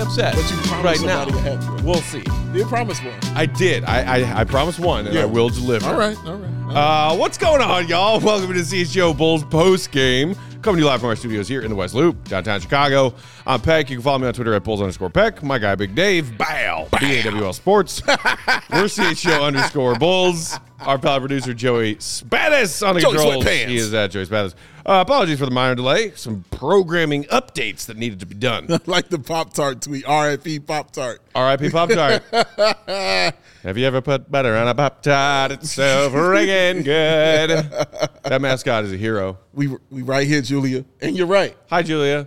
upset. But you promised right now. somebody a hat trick. We'll see. You promised one. I did. I promised one, and I will deliver. All right. What's going on, y'all? Welcome to the CHGO Bulls post game. Coming to you live from our studios here in the West Loop, downtown Chicago. I'm Peck. You can follow me on Twitter at Bulls_Peck. My guy, Big Dave. Bow. BAWL Sports. We're CHGO_Bulls. Our pal producer, Joey Spatis on the controls. He is at Joey Spatis. Apologies for the minor delay. Some programming updates that needed to be done. Like the Pop-Tart tweet. RIP Pop-Tart. RIP Pop-Tart. Have you ever put butter on a Pop-Tart? It's so friggin' good. That mascot is a hero. We right here, Julia. And you're right. Hi, Julia.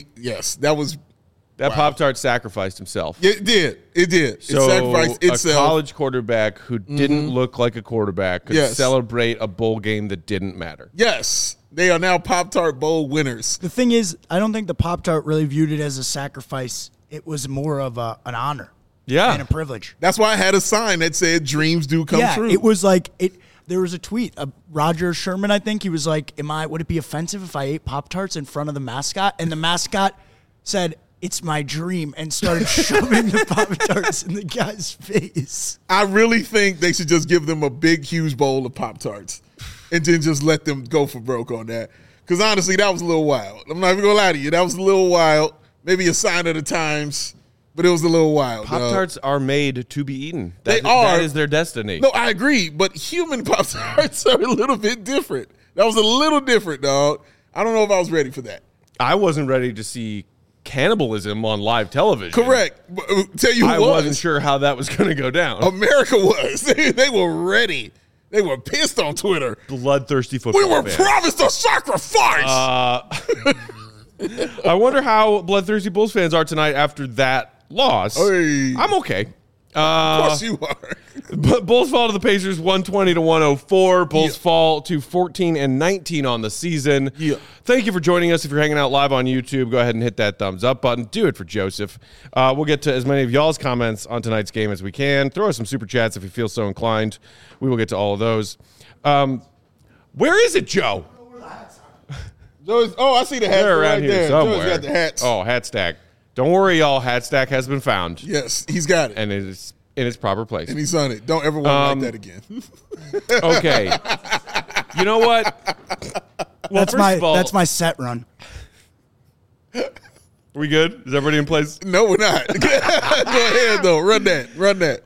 That Pop-Tart sacrificed himself. It did. So it sacrificed itself. A college quarterback who didn't look like a quarterback could celebrate a bowl game that didn't matter. Yes. They are now Pop-Tart Bowl winners. The thing is, I don't think the Pop-Tart really viewed it as a sacrifice. It was more of an honor. Yeah. And a privilege. That's why I had a sign that said dreams do come true. It was like there was a tweet. Roger Sherman, I think, he was like, would it be offensive if I ate Pop-Tarts in front of the mascot? And the mascot said, "It's my dream," and started shoving the Pop-Tarts in the guy's face. I really think they should just give them a big, huge bowl of Pop-Tarts and then just let them go for broke on that. Because honestly, that was a little wild. I'm not even going to lie to you. That was a little wild. Maybe a sign of the times, but it was a little wild. Pop-Tarts are made to be eaten. They are. That is their destiny. No, I agree, but human Pop-Tarts are a little bit different. That was a little different, dog. I don't know if I was ready for that. I wasn't ready to see cannibalism on live television. Correct. Tell you who I wasn't sure how that was going to go down. America was. They were ready. They were pissed on Twitter. Bloodthirsty football We were fans. promised a sacrifice. I wonder how bloodthirsty Bulls fans are tonight after that loss. Hey. I'm okay. Of course you are. But Bulls fall to the Pacers 120-104. Bulls fall to 14-19 on the season. Yeah. Thank you for joining us. If you're hanging out live on YouTube, go ahead and hit that thumbs up button. Do it for Joseph. We'll get to as many of y'all's comments on tonight's game as we can. Throw us some super chats if you feel so inclined. We will get to all of those. Where is it, Joe? I see the hat They're around right here there. somewhere. Joe's got the hats. Oh, hat stack. Don't worry, y'all. Hat stack has been found. Yes, he's got it. And it is in its proper place. And he's on it. Don't ever want like that again. Okay. You know what? Well, That's my set run. We good? Is everybody in place? No, we're not. Go ahead, though. Run that.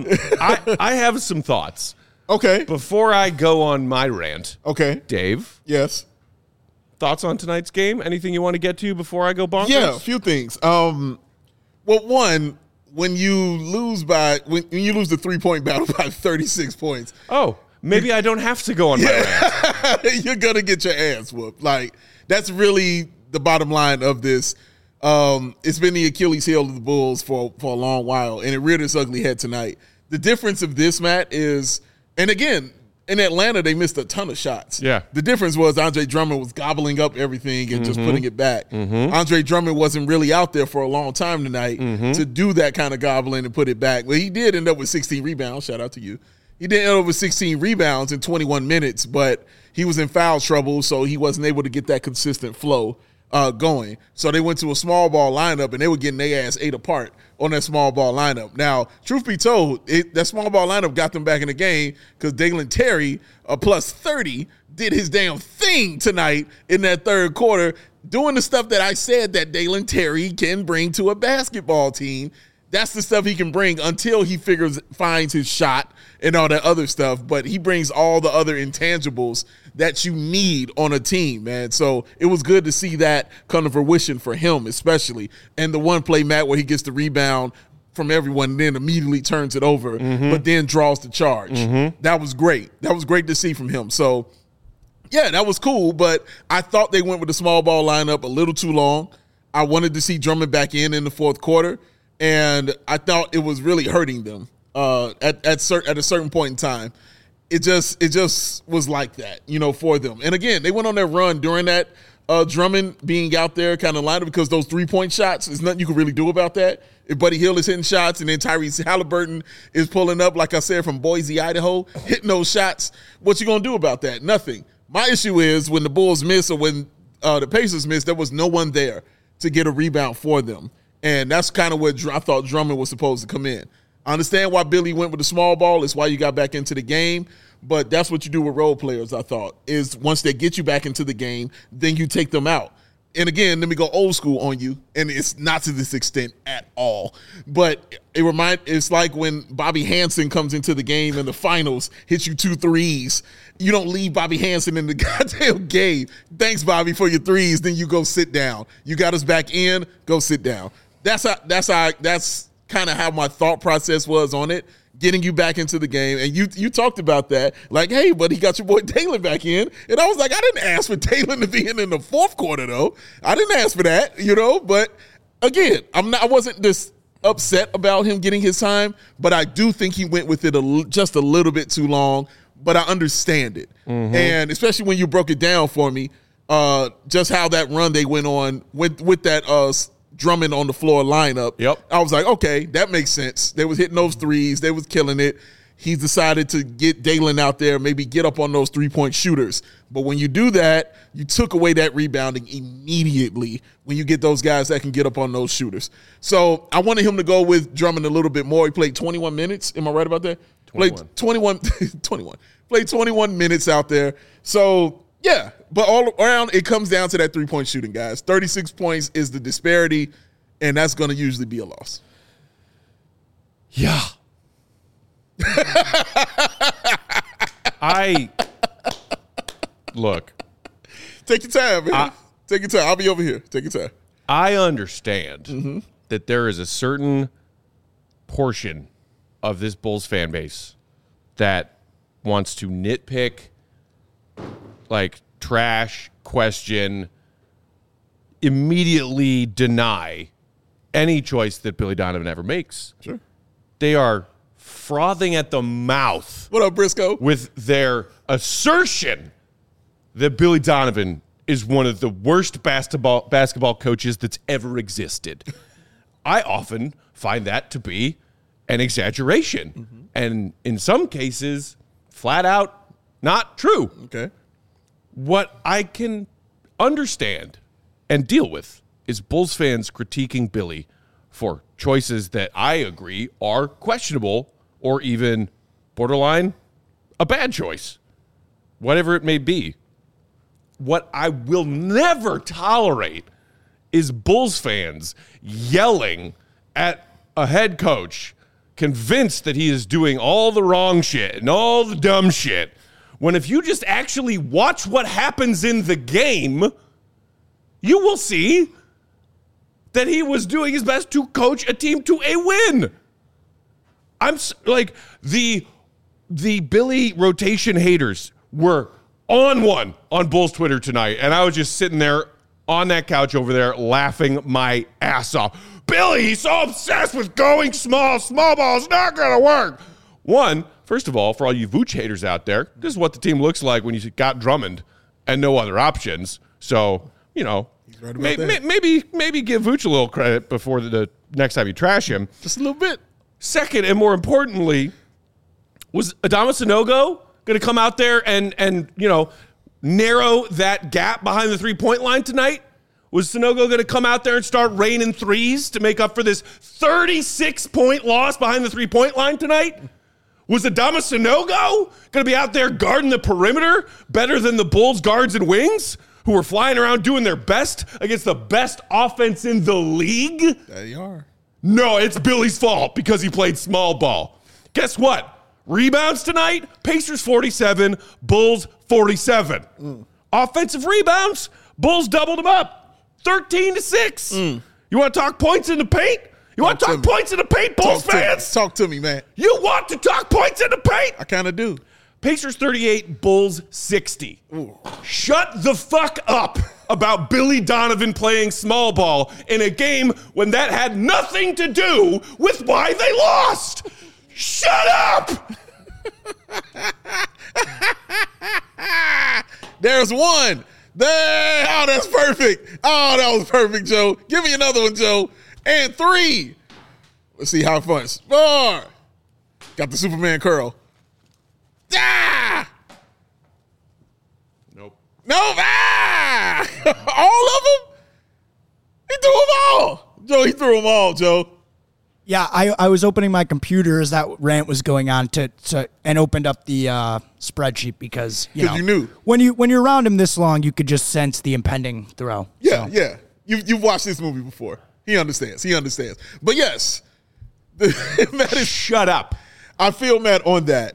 I have some thoughts. Okay. Before I go on my rant, Okay. Dave, Yes. thoughts on tonight's game? Anything you want to get to before I go bonkers? Yeah, a few things. Well, one, when you lose the 3-point battle by 36 points. Oh, maybe I don't have to go on my rant. You're going to get your ass whooped. Like, that's really the bottom line of this. It's been the Achilles heel of the Bulls for a long while, and it reared its ugly head tonight. The difference of this, Matt, is, and again, in Atlanta, they missed a ton of shots. Yeah. The difference was Andre Drummond was gobbling up everything and just putting it back. Andre Drummond wasn't really out there for a long time tonight to do that kind of gobbling and put it back. Well, he did end up with 16 rebounds. Shout out to you. He did end up with 16 rebounds in 21 minutes, but he was in foul trouble, so he wasn't able to get that consistent flow going. So they went to a small ball lineup, and they were getting their ass ate apart on that small ball lineup. Now, truth be told, that small ball lineup got them back in the game because Dalen Terry, a plus 30, did his damn thing tonight in that third quarter, doing the stuff that I said that Dalen Terry can bring to a basketball team. That's the stuff he can bring until he finds his shot and all that other stuff. But he brings all the other intangibles that you need on a team, man. So it was good to see that come to fruition for him, especially. And the one play, Matt, where he gets the rebound from everyone and then immediately turns it over, but then draws the charge. That was great. That was great to see from him. So, yeah, that was cool. But I thought they went with the small ball lineup a little too long. I wanted to see Drummond back in the fourth quarter. And I thought it was really hurting them at a certain point in time. It just was like that, for them. And again, they went on their run during that Drummond being out there kind of lineup because those 3-point shots, there's nothing you can really do about that. If Buddy Hield is hitting shots and then Tyrese Halliburton is pulling up, like I said, from Boise, Idaho, hitting those shots, what you going to do about that? Nothing. My issue is when the Bulls miss or when the Pacers miss, there was no one there to get a rebound for them. And that's kind of where I thought Drummond was supposed to come in. I understand why Billy went with the small ball. It's why you got back into the game. But that's what you do with role players, I thought, is once they get you back into the game, then you take them out. And again, let me go old school on you, and it's not to this extent at all. But it's like when Bobby Hansen comes into the game in the finals, hits you 2 threes. You don't leave Bobby Hansen in the goddamn game. Thanks, Bobby, for your threes. Then you go sit down. You got us back in. Go sit down. That's kind of how my thought process was on it. Getting you back into the game. And you talked about that. Like, hey, but he got your boy Taylor back in. And I was like, I didn't ask for Taylor to be in the fourth quarter, though. I didn't ask for that, But, again, I wasn't just upset about him getting his time. But I do think he went with it just a little bit too long. But I understand it. Mm-hmm. And especially when you broke it down for me, just how that run they went on with that Drummond on the floor lineup. Yep. I was like, okay, that makes sense. They was hitting those threes. They was killing it. He's decided to get Dalen out there, maybe get up on those three-point shooters. But when you do that, you took away that rebounding immediately when you get those guys that can get up on those shooters. So I wanted him to go with Drummond a little bit more. He played 21 minutes. Am I right about that? 21. Played 21 minutes out there. So, yeah, but all around, it comes down to that three-point shooting, guys. 36 points is the disparity, and that's going to usually be a loss. Yeah. Look. Take your time, man. Take your time. I'll be over here. Take your time. I understand that there is a certain portion of this Bulls fan base that wants to nitpick, like trash, question, immediately deny any choice that Billy Donovan ever makes. Sure. They are frothing at the mouth. What up, Briscoe? With their assertion that Billy Donovan is one of the worst basketball coaches that's ever existed. I often find that to be an exaggeration. And in some cases, flat out not true. Okay. What I can understand and deal with is Bulls fans critiquing Billy for choices that I agree are questionable or even borderline a bad choice, whatever it may be. What I will never tolerate is Bulls fans yelling at a head coach convinced that he is doing all the wrong shit and all the dumb shit, when if you just actually watch what happens in the game, you will see that he was doing his best to coach a team to a win. I'm like, the Billy rotation haters were on one on Bulls Twitter tonight, and I was just sitting there on that couch over there laughing my ass off. Billy, he's so obsessed with going small. Small ball is not going to work. One, first of all, for all you Vooch haters out there, this is what the team looks like when you got Drummond and no other options. So, Right, maybe give Vooch a little credit before the next time you trash him. Just a little bit. Second, and more importantly, was Adama Sanogo going to come out there and narrow that gap behind the three-point line tonight? Was Sanogo going to come out there and start raining threes to make up for this 36-point loss behind the three-point line tonight? Was Adama Sanogo going to be out there guarding the perimeter better than the Bulls guards and wings who were flying around doing their best against the best offense in the league? They are. No, it's Billy's fault because he played small ball. Guess what? Rebounds tonight, Pacers 47, Bulls 47. Offensive rebounds, Bulls doubled them up. 13-6. You want to talk points in the paint? You want to talk points in the paint, Bulls fans? Talk to me, man. You want to talk points in the paint? I kind of do. Pacers 38, Bulls 60. Ooh. Shut the fuck up about Billy Donovan playing small ball in a game when that had nothing to do with why they lost. Shut up! There's one. There. Oh, that's perfect. Oh, that was perfect, Joe. Give me another one, Joe. And 3. Let's see how it funs. 4. Got the Superman curl. Ah! Nope. Ah! All of them? He threw them all. Joe, he threw them all, Joe. Yeah, I was opening my computer as that rant was going on and opened up the spreadsheet because you knew when you're around him this long, you could just sense the impending throw. Yeah, yeah. You've watched this movie before. He understands. But yes, Matt is. Shut up. I feel Matt on that.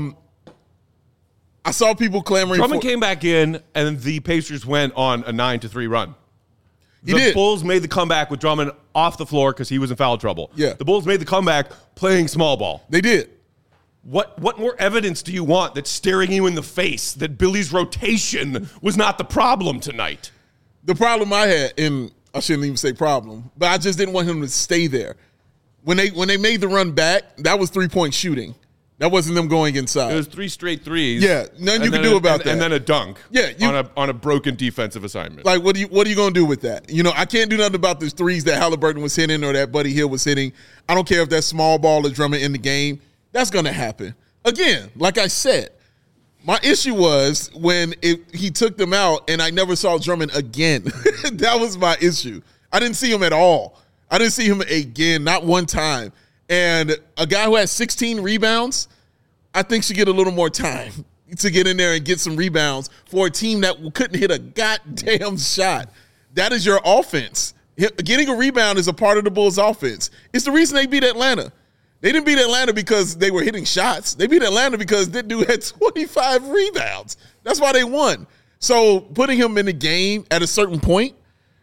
I saw people clamoring. Drummond came back in, and the Pacers went on a 9-3 run. The Bulls made the comeback with Drummond off the floor because he was in foul trouble. Yeah. The Bulls made the comeback playing small ball. They did. What more evidence do you want that's staring you in the face that Billy's rotation was not the problem tonight? The problem I had, and I shouldn't even say problem, but I just didn't want him to stay there. When they made the run back, that was 3-point shooting. That wasn't them going inside. It was 3 straight threes. Yeah, nothing you can do about that. And then a dunk. Yeah, on a broken defensive assignment. Like, what are you going to do with that? I can't do nothing about the threes that Halliburton was hitting or that Buddy Hield was hitting. I don't care if that's small ball or Drummond in the game. That's going to happen. Again, like I said, my issue was when he took them out and I never saw Drummond again. That was my issue. I didn't see him at all. I didn't see him again, not one time. And a guy who has 16 rebounds, I think should get a little more time to get in there and get some rebounds for a team that couldn't hit a goddamn shot. That is your offense. Getting a rebound is a part of the Bulls' offense. It's the reason they beat Atlanta. They didn't beat Atlanta because they were hitting shots. They beat Atlanta because that dude had 25 rebounds. That's why they won. So putting him in the game at a certain point,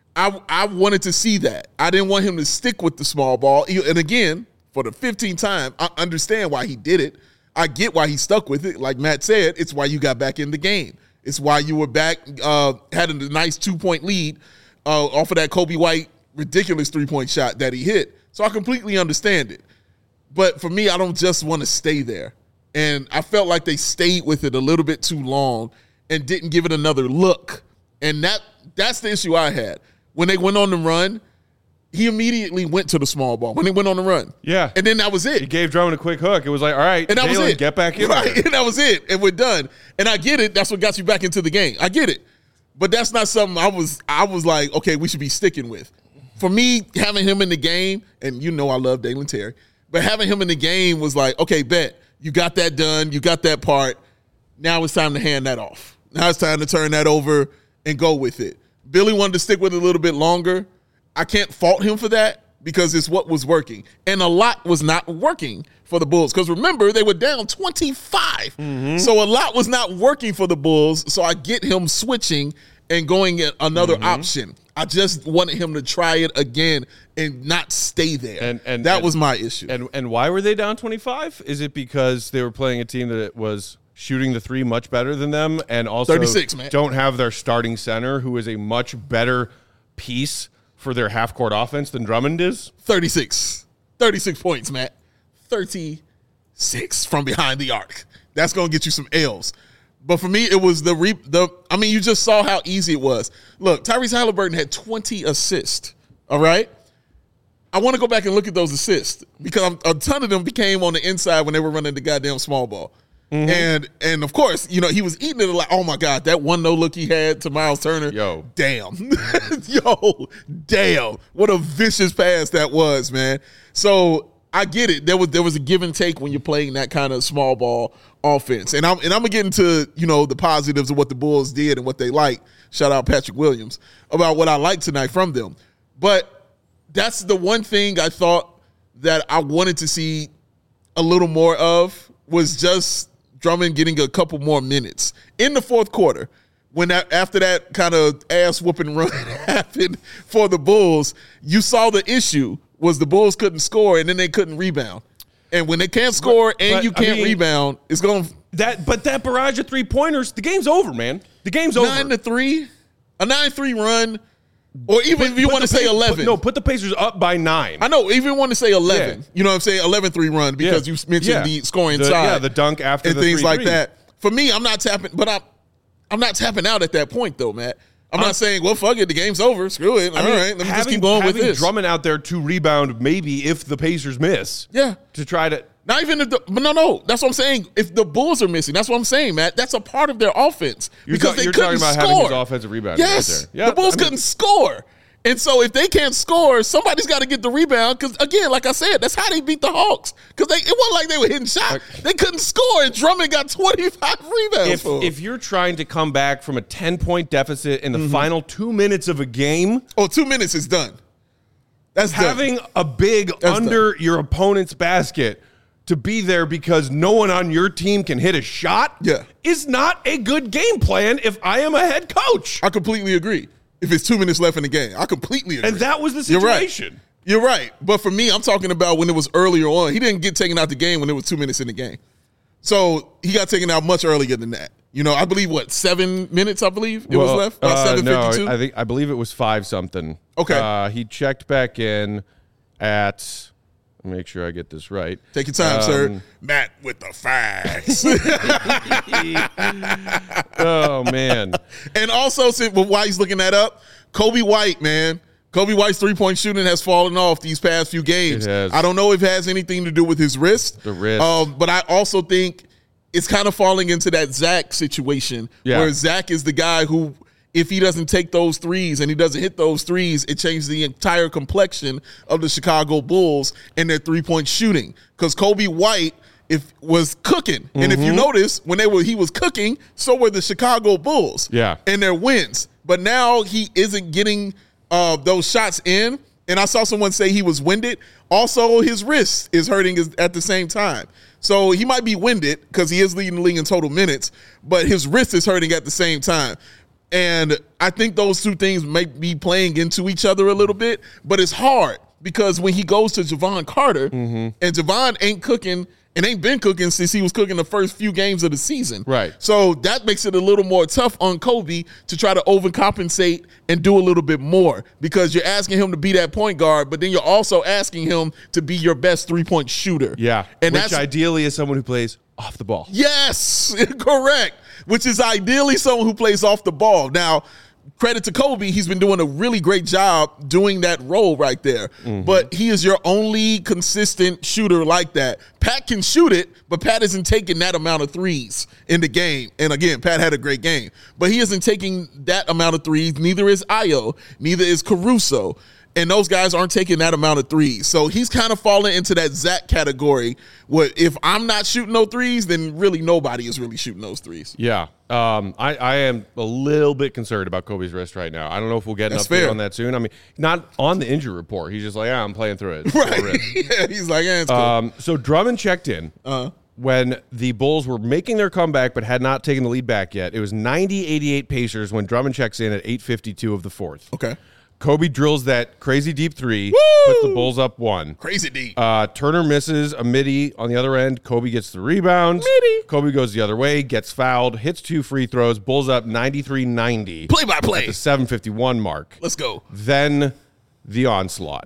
I wanted to see that. I didn't want him to stick with the small ball. And again, for the 15th time, I understand why he did it. I get why he stuck with it. Like Matt said, it's why you got back in the game. It's why you were back, had a nice 2-point lead off of that Kobe White ridiculous 3-point shot that he hit. So I completely understand it. But for me, I don't just want to stay there. And I felt like they stayed with it a little bit too long and didn't give it another look. And that's the issue I had. When they went on the run, he immediately went to the small ball when they went on the run. Yeah. And then that was it. He gave Drummond a quick hook. It was like, all right, and that was it. Get back in right. there. And that was it. And we're done. And I get it. That's what got you back into the game. I get it. But that's not something I was like, okay, we should be sticking with. For me, having him in the game, and I love Dalen Terry, but having him in the game was like, okay, bet. You got that done. You got that part. Now it's time to hand that off. Now it's time to turn that over and go with it. Billy wanted to stick with it a little bit longer. I can't fault him for that because it's what was working. And a lot was not working for the Bulls. Because remember, they were down 25. Mm-hmm. So a lot was not working for the Bulls. So I get him switching and going at another option. I just wanted him to try it again and not stay there. And that was my issue. And why were they down 25? Is it because they were playing a team that was shooting the three much better than them and also 36, man. Don't have their starting center who is a much better piece for their half-court offense than Drummond is? 36. 36 points, Matt. 36 from behind the arc. That's going to get you some L's. But for me, it was you just saw how easy it was. Look, Tyrese Halliburton had 20 assists, all right? I want to go back and look at those assists because a ton of them became on the inside when they were running the goddamn small ball. Mm-hmm. And of course, he was eating it like, oh my God, that one no look he had to Miles Turner. Yo. Damn. Damn. What a vicious pass that was, man. So I get it. There was a give and take when you're playing that kind of small ball offense. And I'm gonna get into, the positives of what the Bulls did and what they like. Shout out Patrick Williams about what I liked tonight from them. But that's the one thing I thought that I wanted to see a little more of was just Drummond getting a couple more minutes in the fourth quarter. When after that kind of ass whooping run happened for the Bulls, you saw the issue was the Bulls couldn't score and then they couldn't rebound. And when they can't score and you can't rebound, it's going to that barrage of 3-pointers, the game's over, man. The game's over. 9-3, a 9-3 run. Or even if you want to say 11. Put the Pacers up by 9. I know, even want to say 11. Yeah. You know what I'm saying? 11-3 run because you mentioned the scoring side. Yeah, the dunk after and the things 3-3. like that. For me, I'm not tapping, but I'm not tapping out at that point though, Matt. I'm not saying, well, fuck it, the game's over. Screw it. All right, let me just keep going with this. Drummond out there to rebound maybe if the Pacers miss. Yeah. To try to not even if no. That's what I'm saying. If the Bulls are missing, that's what I'm saying, Matt. That's a part of their offense because they couldn't score. Having his offensive rebound. Yes, right there. Yeah, the Bulls couldn't score, And so if they can't score, somebody's got to get the rebound. Because, again, like I said, that's how they beat the Hawks. Because it wasn't like they were hitting shots. They couldn't score, and Drummond got 25 rebounds. If you're trying to come back from a 10-point deficit in the final 2 minutes of a game. 2 minutes is done. That's having a big under your opponent's basket to be there because no one on your team can hit a shot is not a good game plan if I am a head coach. I completely agree. If it's 2 minutes left in the game, I completely agree. And that was the situation. You're right. But for me, I'm talking about when it was earlier on. He didn't get taken out the game when it was 2 minutes in the game. So he got taken out much earlier than that. I believe 7 minutes, it was left? About 7:52? No, I believe it was 5-something. Okay. He checked back in at, make sure I get this right. Take your time, sir. Matt with the facts. Oh, man. And also, while he's looking that up, Kobe White, man. Kobe White's three-point shooting has fallen off these past few games. It has. I don't know if it has anything to do with his wrist. The wrist. But I also think it's kind of falling into that Zach situation where Zach is the guy who, if he doesn't take those threes and he doesn't hit those threes, it changes the entire complexion of the Chicago Bulls and their three-point shooting. Because Kobe White was cooking. And if you notice, he was cooking, so were the Chicago Bulls and their wins. But now he isn't getting those shots in. And I saw someone say he was winded. Also, his wrist is hurting at the same time. So he might be winded because he is leading the league in total minutes, but his wrist is hurting at the same time. And I think those two things may be playing into each other a little bit, but it's hard because when he goes to Javon Carter, and Javon ain't cooking and ain't been cooking since he was cooking the first few games of the season. Right. So that makes it a little more tough on Kobe to try to overcompensate and do a little bit more because you're asking him to be that point guard, but then you're also asking him to be your best three-point shooter. Yeah, and which ideally is someone who plays off the ball. Yes, correct, which is ideally someone who plays off the ball. Now, credit to Kobe, he's been doing a really great job doing that role right there. But he is your only consistent shooter like that. Pat can shoot it, but Pat isn't taking that amount of threes in the game. And again, Pat had a great game. But he isn't taking that amount of threes. Neither is Ayo. Neither is Caruso. And those guys aren't taking that amount of threes. So he's kind of falling into that Zach category where if I'm not shooting no threes, then really nobody is really shooting those threes. Yeah. I am a little bit concerned about Kobe's wrist right now. I don't know if we'll get an update on that soon. I mean, not on the injury report. He's just like, I'm playing through it. Right. Yeah, he's like, it's cool. So Drummond checked in when the Bulls were making their comeback but had not taken the lead back yet. It was 90-88 Pacers when Drummond checks in at 8:52 of the fourth. Okay. Kobe drills that crazy deep three, puts the Bulls up 1. Crazy deep. Turner misses a midi on the other end. Kobe gets the rebound. Kobe goes the other way, gets fouled, hits 2 free throws, Bulls up 93-90. Play-by-play. At the 7:51 mark. Let's go. Then the onslaught.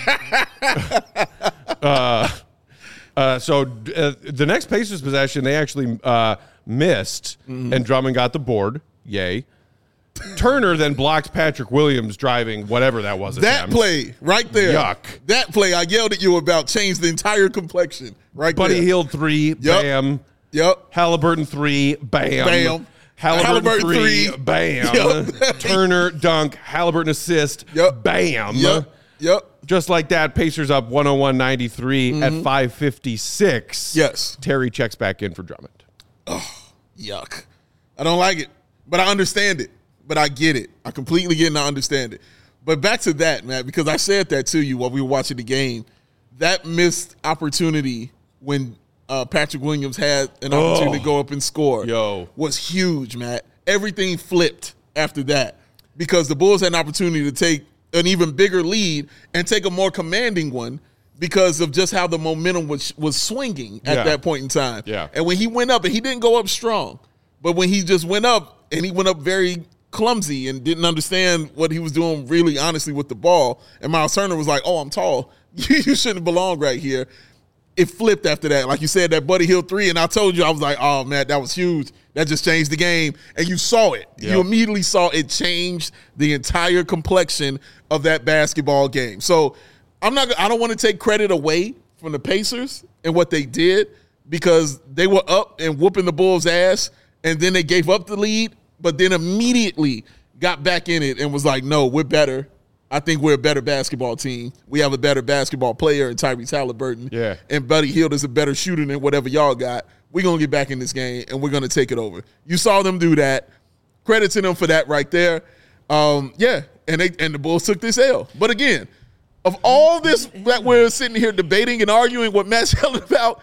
So the next Pacers possession, they actually missed, and Drummond got the board. Yay. Turner then blocked Patrick Williams driving whatever that was. That play right there. Yuck. That play I yelled at you about changed the entire complexion right Buddy there. Hield 3, bam. Yep. Halliburton 3, bam. Bam. Halliburton 3, bam. Yep. Turner dunk, Halliburton assist, bam. Yep. Just like that, Pacers up 101-93 at 5:56. Yes. Terry checks back in for Drummond. Oh, yuck. I don't like it, but I understand it. But I get it. I completely get it and I understand it. But back to that, Matt, because I said that to you while we were watching the game. That missed opportunity when Patrick Williams had an opportunity to go up and score was huge, Matt. Everything flipped after that because the Bulls had an opportunity to take an even bigger lead and take a more commanding one because of just how the momentum was swinging at that point in time. Yeah. And when he went up, and he didn't go up strong, but when he just went up, and he went up very clumsy and didn't understand what he was doing really honestly with the ball. And Miles Turner was like, oh, I'm tall. You shouldn't belong right here. It flipped after that. Like you said, that Buddy Hield 3, and I told you, I was like, oh, man, that was huge. That just changed the game. And you saw it. Yep. You immediately saw it changed the entire complexion of that basketball game. So I don't want to take credit away from the Pacers and what they did because they were up and whooping the Bulls' ass, and then they gave up the lead, but then immediately got back in it and was like, no, we're better. I think we're a better basketball team. We have a better basketball player in Tyrese Halliburton. Yeah. And Buddy Hield is a better shooter than whatever y'all got. We're going to get back in this game, and we're going to take it over. You saw them do that. Credit to them for that right there. And the Bulls took this L. But again, of all this that we're sitting here debating and arguing what Matt's yelling about,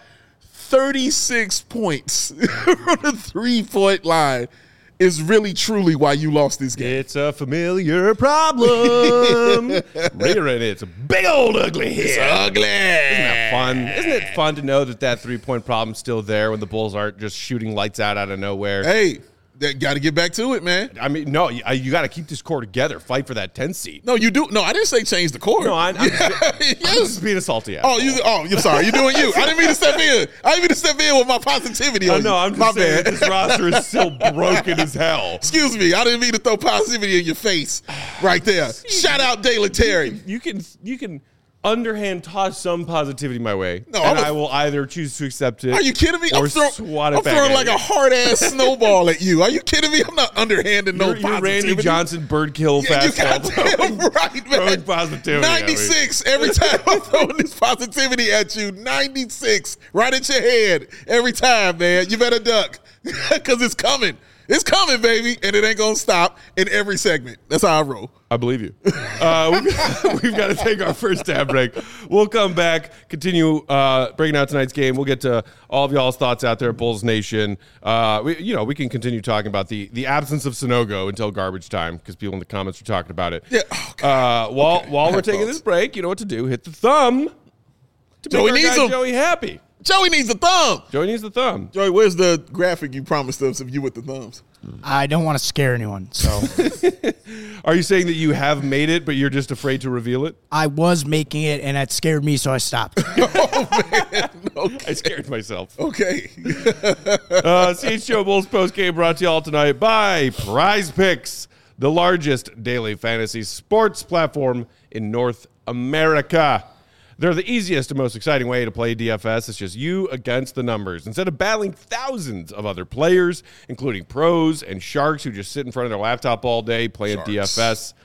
36 points from the 3-point line is really truly why you lost this game. It's a familiar problem. Rearing it's a big old ugly head. It's ugly. Isn't that fun? Isn't it fun to know that 3-point problem's still there when the Bulls aren't just shooting lights out of nowhere? Hey, they got to get back to it, man. I mean, no, you got to keep this core together. Fight for that 10 seed. No, you do. No, I didn't say change the core. No, I'm yes. just being a salty ass. You're sorry. You're doing you. I didn't mean to step in. I didn't mean to step in with my positivity on you. No, I'm just saying this roster is still broken as hell. Excuse me. I didn't mean to throw positivity in your face right there. Shout out Dalen Terry. You can underhand toss some positivity my way, No, and I will either choose to accept it. Are you kidding me? Or I'm swat it back throwing at like you. a hard ass snowball at you. Are you kidding me? I'm not underhanding no You're positivity. Randy Johnson birdkill Yeah, you fastball. goddamn right, man. Throwing positivity at me. 96 every time I'm throwing this positivity at you. 96 right at your head every time, man. You better duck because it's coming. It's coming, baby, and it ain't going to stop in every segment. That's how I roll. I believe you. We've got to take our first tab break. We'll come back, continue breaking out tonight's game. We'll get to all of y'all's thoughts out there at Bulls Nation. We can continue talking about the absence of Sonogo until garbage time because people in the comments are talking about it. Yeah. Oh, God. While we're taking this break, you know what to do. Hit the thumb to Joey make our needs guy him. Joey happy. Joey needs a thumb. Joey needs the thumb. Joey, where's the graphic you promised us of you with the thumbs? I don't want to scare anyone, so Are you saying that you have made it, but you're just afraid to reveal it? I was making it, and it scared me, so I stopped. Okay. I scared myself. Okay. CHGO Bulls postgame brought to you all tonight by Prize Picks, the largest daily fantasy sports platform in North America. They're the easiest and most exciting way to play DFS. It's just you against the numbers. Instead of battling thousands of other players, including pros and sharks who just sit in front of their laptop all day playing DFS,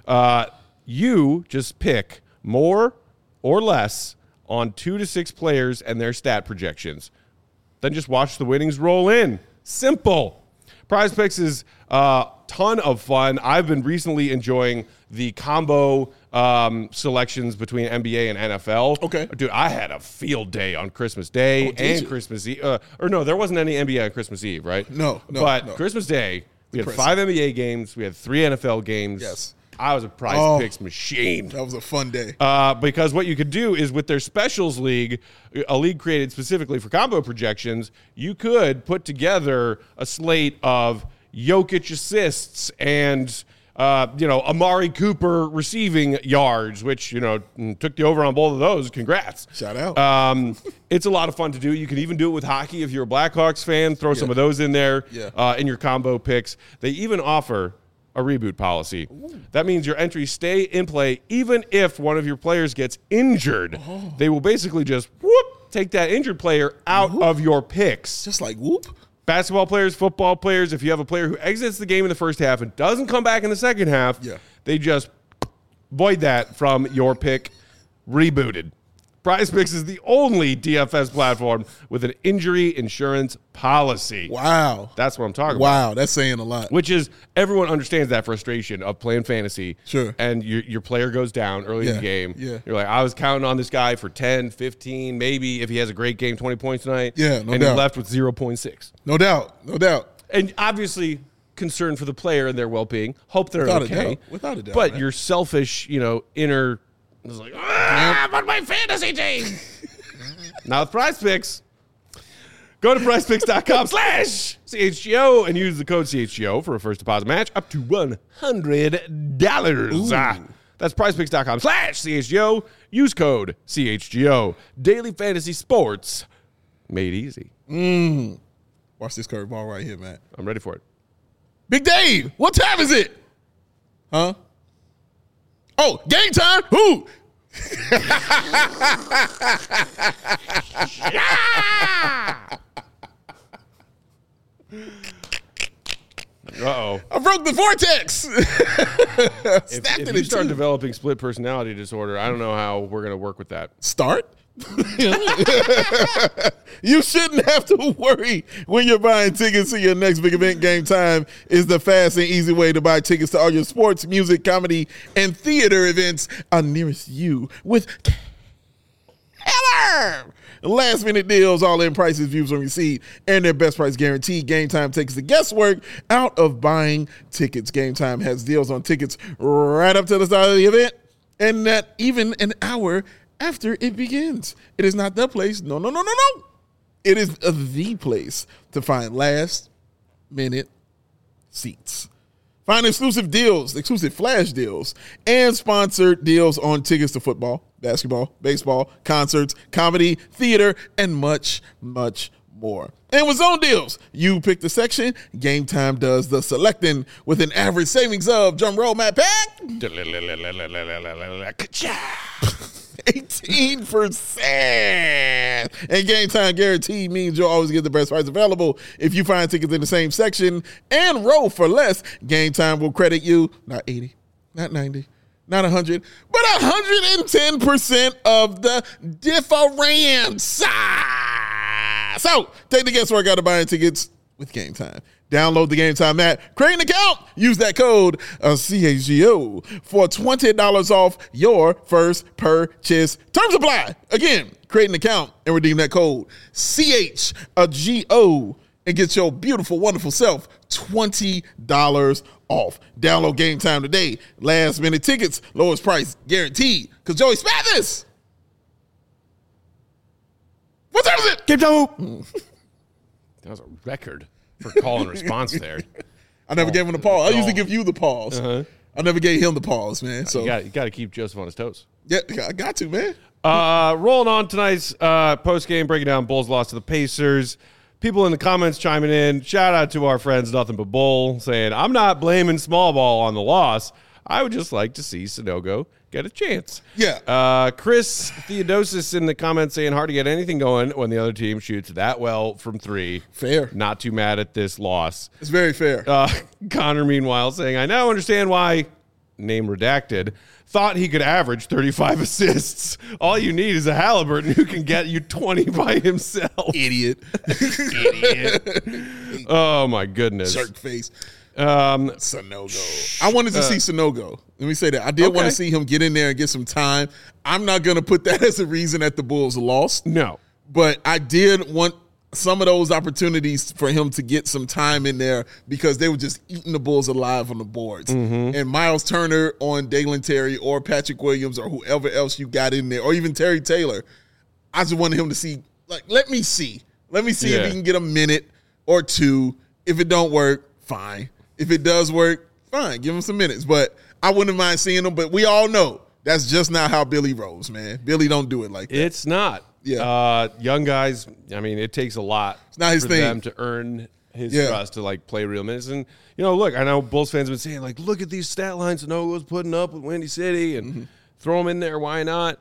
you just pick more or less on 2 to 6 players and their stat projections. Then just watch the winnings roll in. Simple. Prize Picks is a ton of fun. I've been recently enjoying the combo selections between NBA and NFL. Okay. Dude, I had a field day on Christmas Day and you? Christmas Eve. Or no, there wasn't any NBA on Christmas Eve, right? No. But Christmas Day, we had 5 NBA games. We had 3 NFL games. Yes. I was a Prize Picks machine. That was a fun day. Because what you could do is with their specials league, a league created specifically for combo projections, you could put together a slate of Jokic assists and Amari Cooper receiving yards, which, took the over on both of those. Congrats. Shout out. It's a lot of fun to do. You can even do it with hockey if you're a Blackhawks fan. Throw some of those in there in your combo picks. They even offer a reboot policy. Ooh. That means your entries stay in play even if one of your players gets injured. Oh. They will basically just take that injured player out of your picks. Just like whoop. Basketball players, football players, if you have a player who exits the game in the first half and doesn't come back in the second half, they just void that from your pick, rebooted. Prize Picks is the only DFS platform with an injury insurance policy. Wow. That's what I'm talking about. Wow, that's saying a lot. Which is, everyone understands that frustration of playing fantasy. Sure. And your player goes down early in the game. Yeah. You're like, I was counting on this guy for 10, 15, maybe if he has a great game, 20 points tonight. Yeah, no and doubt. he left with 0.6. No doubt. And obviously, concern for the player and their well-being. Hope they're Without okay. a doubt. Without a doubt. But man. your selfish, inner, is like, but my fantasy team. Now with Prize Picks, go to prizepicks.com/CHGO and use the code CHGO for a first deposit match up to $100. That's prizepicks.com/CHGO. Use code CHGO. Daily fantasy sports made easy. Watch this curveball right here, man. I'm ready for it. Big Dave, what time is it? Huh? Oh, game time? Who? Uh-oh. I broke the the vortex. If you start developing split personality disorder, I don't know how we're going to work with that. Start. You shouldn't have to worry when you're buying tickets to your next big event. Game Time is the fast and easy way to buy tickets to all your sports, music, comedy, and theater events nearest you with killer last minute deals, all in prices, views on receipt, and their best price guarantee. Game Time takes the guesswork out of buying tickets. Game Time has deals on tickets right up to the start of the event, and not even an hour after it begins. It is not the place. No. It is the place to find last minute seats. Find exclusive deals, exclusive flash deals, and sponsored deals on tickets to football, basketball, baseball, concerts, comedy, theater, and much, much more. And with zone deals, you pick the section. Game Time does the selecting with an average savings of, drum roll, Matt Pack, 18%. And Game Time guarantee means you'll always get the best price available. If you find tickets in the same section and row for less, Game Time will credit you not 80, not 90, not 100, but 110% of the difference. So take the guesswork out of buying tickets with Game Time. Download the Game Time app, create an account, use that code CHGO for $20 off your first purchase. Terms apply. Again, create an account and redeem that code CHGO and get your beautiful, wonderful self $20 off. Download Game Time today. Last minute tickets, lowest price guaranteed. Because Joey Spathis. What time is it? Game Time. That was a record for call and response there. I never gave him the pause. I usually give you the pause. I never gave him the pause, man. So you got to keep Joseph on his toes. Yeah, I got to, man. Rolling on tonight's post game, breaking down Bulls' loss to the Pacers. People in the comments chiming in. Shout out to our friends Nothing But Bull saying, "I'm not blaming small ball on the loss. I would just like to see Sanogo get a chance." Yeah. Chris Theodosis in the comments saying, "Hard to get anything going when the other team shoots that well from three." Fair. Not too mad at this loss. It's very fair. Connor, meanwhile, saying, "I now understand why," name redacted, "thought he could average 35 assists. All you need is a Halliburton who can get you 20 by himself." Idiot. Oh, my goodness. Jerk face. Sanogo. I wanted to see Sanogo. Let me say that. I did want to see him get in there and get some time. I'm not going to put that as a reason that the Bulls lost. No. But I did want some of those opportunities for him to get some time in there because they were just eating the Bulls alive on the boards. And Miles Turner on Dalen Terry or Patrick Williams or whoever else you got in there, or even Terry Taylor, I just wanted him to see, like, let me see if he can get a minute or two. If it don't work, fine. If it does work, fine. Give him some minutes. But I wouldn't mind seeing him. But we all know that's just not how Billy rolls, man. Billy don't do it like that. It's not. Yeah. Young guys, I mean, it takes a lot not his for thing. them to earn his trust to, like, play real minutes. And, you know, look, I know Bulls fans have been saying, like, look at these stat lines Sanogo's putting up with Windy City and throw him in there. Why not?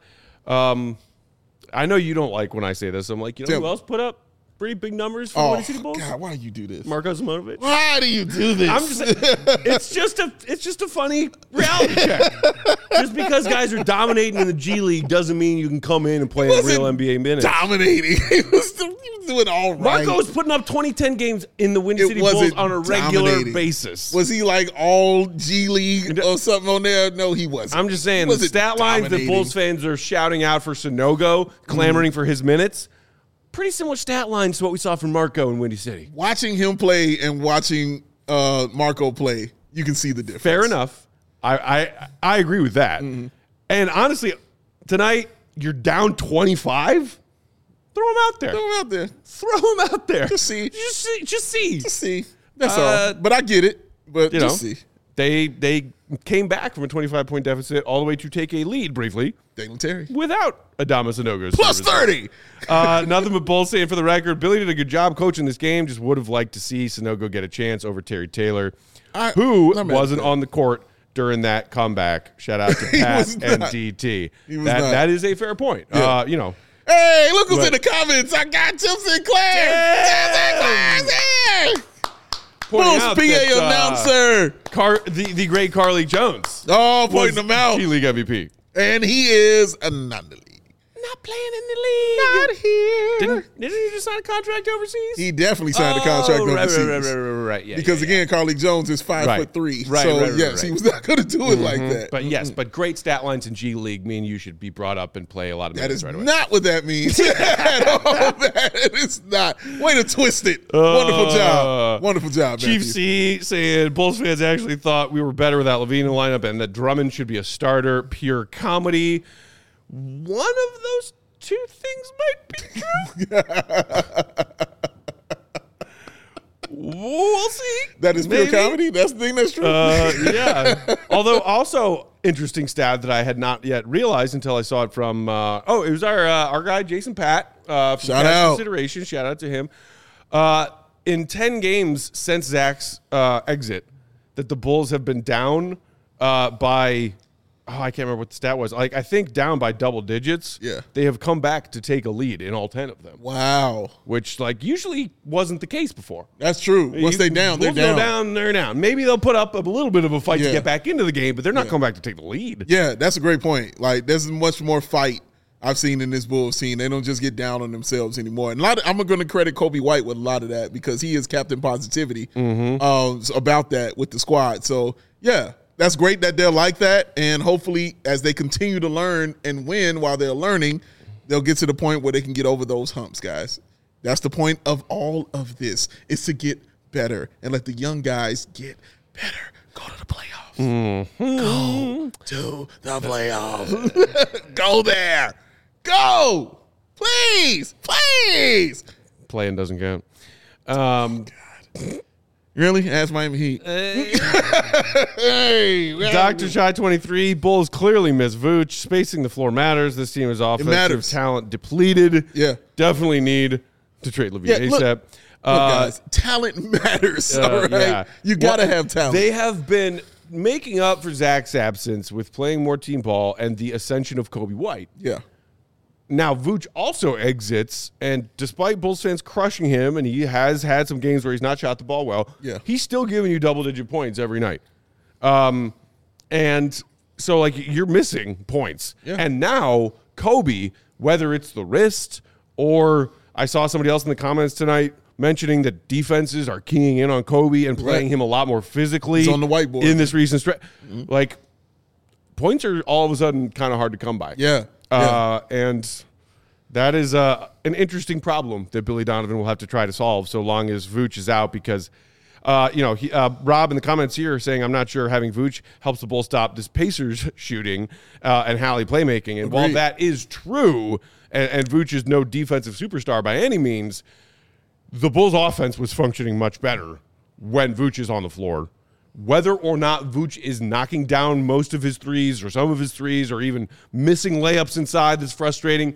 I know you don't like when I say this. I'm like, you know who else put up pretty big numbers for the Windy City Bulls? God, why do you do this? Marko Simonovic. Why do you do this? I'm just it's just a funny reality check. Just because guys are dominating in the G League doesn't mean you can come in and play in real NBA minutes. Dominating. He was doing all right. Marko was putting up 20-10 games in the Windy City Bulls on a regular basis. Was he like all G League or something on there? No, he wasn't. I'm just saying the stat lines that Bulls fans are shouting out for Sanogo, clamoring for his minutes, pretty similar stat lines to what we saw from Marko in Windy City. Watching him play and watching Marko play, you can see the difference. Fair enough. I agree with that. And honestly, tonight you're down 25. Throw him out there. Throw him out there. Just see. Just see. That's all. But I get it. But just see. They came back from a 25-point deficit all the way to take a lead briefly. Dalen Terry. Without Adama Sanogo's plus 30. Nothing but Bulls saying for the record, Billy did a good job coaching this game. Just would have liked to see Sanogo get a chance over Terry Taylor, who wasn't on the court during that comeback. Shout out to Pat and DT. That is a fair point. Yeah. You know. Hey, look who's in the comments. I got Tim Sinclair. Tim Sinclair's here. pointing Bulls out PA that, announcer. the great Carly Jones Pointing him out. G League MVP. And he is a non league. Not playing in the league. Not here. Didn't he just sign a contract overseas? He definitely signed a contract overseas. Right. Yeah, because again, Carly Jones is 5'3". Right, So right, yes, he was not going to do it like that. But great stat lines in G League mean you should be brought up and play a lot of That minutes is right away. not what that means at all. That is not. Way to twist it. Wonderful job. Wonderful job, Chief Matthew. C saying Bulls fans actually thought we were better without Levine in the lineup and that Drummond should be a starter. Pure comedy. One of those two things might be true. We'll see. That is pure Maybe. comedy? That's the thing that's true? Yeah. Although also interesting stat that I had not yet realized until I saw it from it was our guy Jason Pat. From Shout Pat's out. Consideration. Shout out to him. In 10 games since Zach's exit, that the Bulls have been down by I can't remember what the stat was. Like I think down by double digits. Yeah. They have come back to take a lead in all 10 of them. Wow. Which like usually wasn't the case before. That's true. Once they're down, they're Bulls go down. down, they're down. Maybe they'll put up a little bit of a fight to Yeah. get back into the game, but they're not coming back to take the lead. Yeah, that's a great point. Like, there's much more fight I've seen in this Bulls team. They don't just get down on themselves anymore. And I'm going to credit Kobe White with a lot of that because he is Captain Positivity about that with the squad. So, yeah, that's great that they're like that. And hopefully, as they continue to learn and win while they're learning, they'll get to the point where they can get over those humps, guys. That's the point of all of this, is to get better and let the young guys get better. Go to the playoffs. Go to the playoffs. Go there. Go. Please. Please. Playing doesn't count. Really? Ask Miami Heat. Hey, Dr. Shy 23, Bulls clearly miss Vooch. Spacing the floor matters. This team is offensive matters. talent depleted. Yeah. Definitely need to trade Levine Yeah, look- ASAP. Look, guys, talent matters, all right? Yeah. You got to have talent. They have been making up for Zach's absence with playing more team ball and the ascension of Kobe White. yeah. Now, Vooch also exits, and despite Bulls fans crushing him, and he has had some games where he's not shot the ball well, Yeah. he's still giving you double-digit points every night. And so, like, you're missing points. Yeah. And now, Kobe, whether it's the wrist or I saw somebody else in the comments tonight mentioning that defenses are keying in on Kobe and playing him a lot more physically. It's on the whiteboard. In this recent stretch. Like, points are all of a sudden kind of hard to come by. Yeah. And that is an interesting problem that Billy Donovan will have to try to solve so long as Vooch is out because, Rob in the comments here is saying, I'm not sure having Vooch helps the Bulls stop this Pacers shooting and Hallie playmaking. And while Agreed. that is true, and Vooch is no defensive superstar by any means, the Bulls offense was functioning much better when Vooch is on the floor. Whether or not Vooch is knocking down most of his threes or some of his threes or even missing layups inside that's frustrating,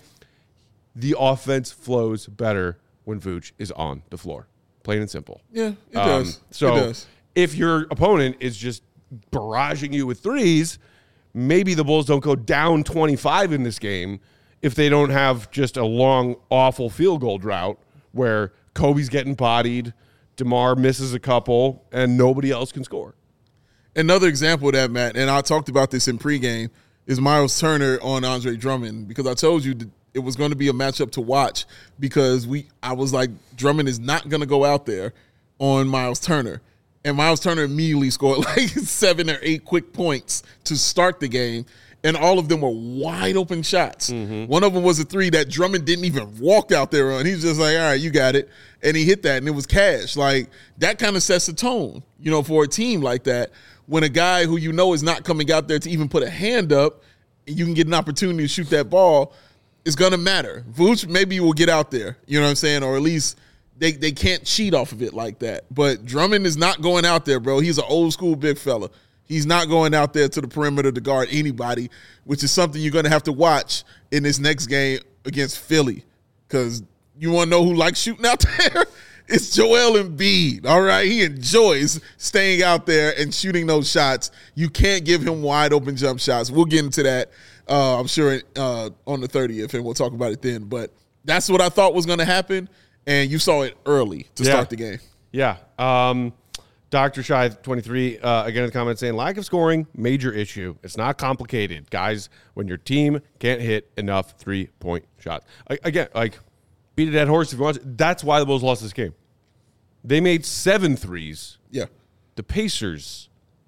the offense flows better when Vooch is on the floor. Plain and simple. Yeah, it does. So it does. if your opponent is just barraging you with threes, maybe the Bulls don't go down 25 in this game if they don't have just a long, awful field goal drought where Kobe's getting bodied, DeMar misses a couple, and nobody else can score. Another example of that, Matt, and I talked about this in pregame, is Miles Turner on Andre Drummond, because I told you that it was going to be a matchup to watch because I was like, Drummond is not going to go out there on Miles Turner. And Miles Turner immediately scored like 7 or 8 quick points to start the game, and all of them were wide open shots. One of them was a three that Drummond didn't even walk out there on. He was just like, all right, you got it. And he hit that, and it was cash. Like, that kind of sets the tone, for a team like that. When a guy who is not coming out there to even put a hand up, and you can get an opportunity to shoot that ball, it's going to matter. Vooch maybe will get out there, you know what I'm saying? Or at least they can't cheat off of it like that. But Drummond is not going out there, bro. He's an old school big fella. He's not going out there to the perimeter to guard anybody, which is something you're going to have to watch in this next game against Philly. Because you want to know who likes shooting out there? It's Joel Embiid, all right? He enjoys staying out there and shooting those shots. You can't give him wide open jump shots. We'll get into that, I'm sure, on the 30th, and we'll talk about it then. But that's what I thought was going to happen, and you saw it early to start the game. Yeah. Dr. Shy 23 again in the comments saying lack of scoring, major issue. It's not complicated, guys. When your team can't hit enough 3-point shots, again, like beat a dead horse if you want to. That's why the Bulls lost this game. They made 7 threes. Yeah. The Pacers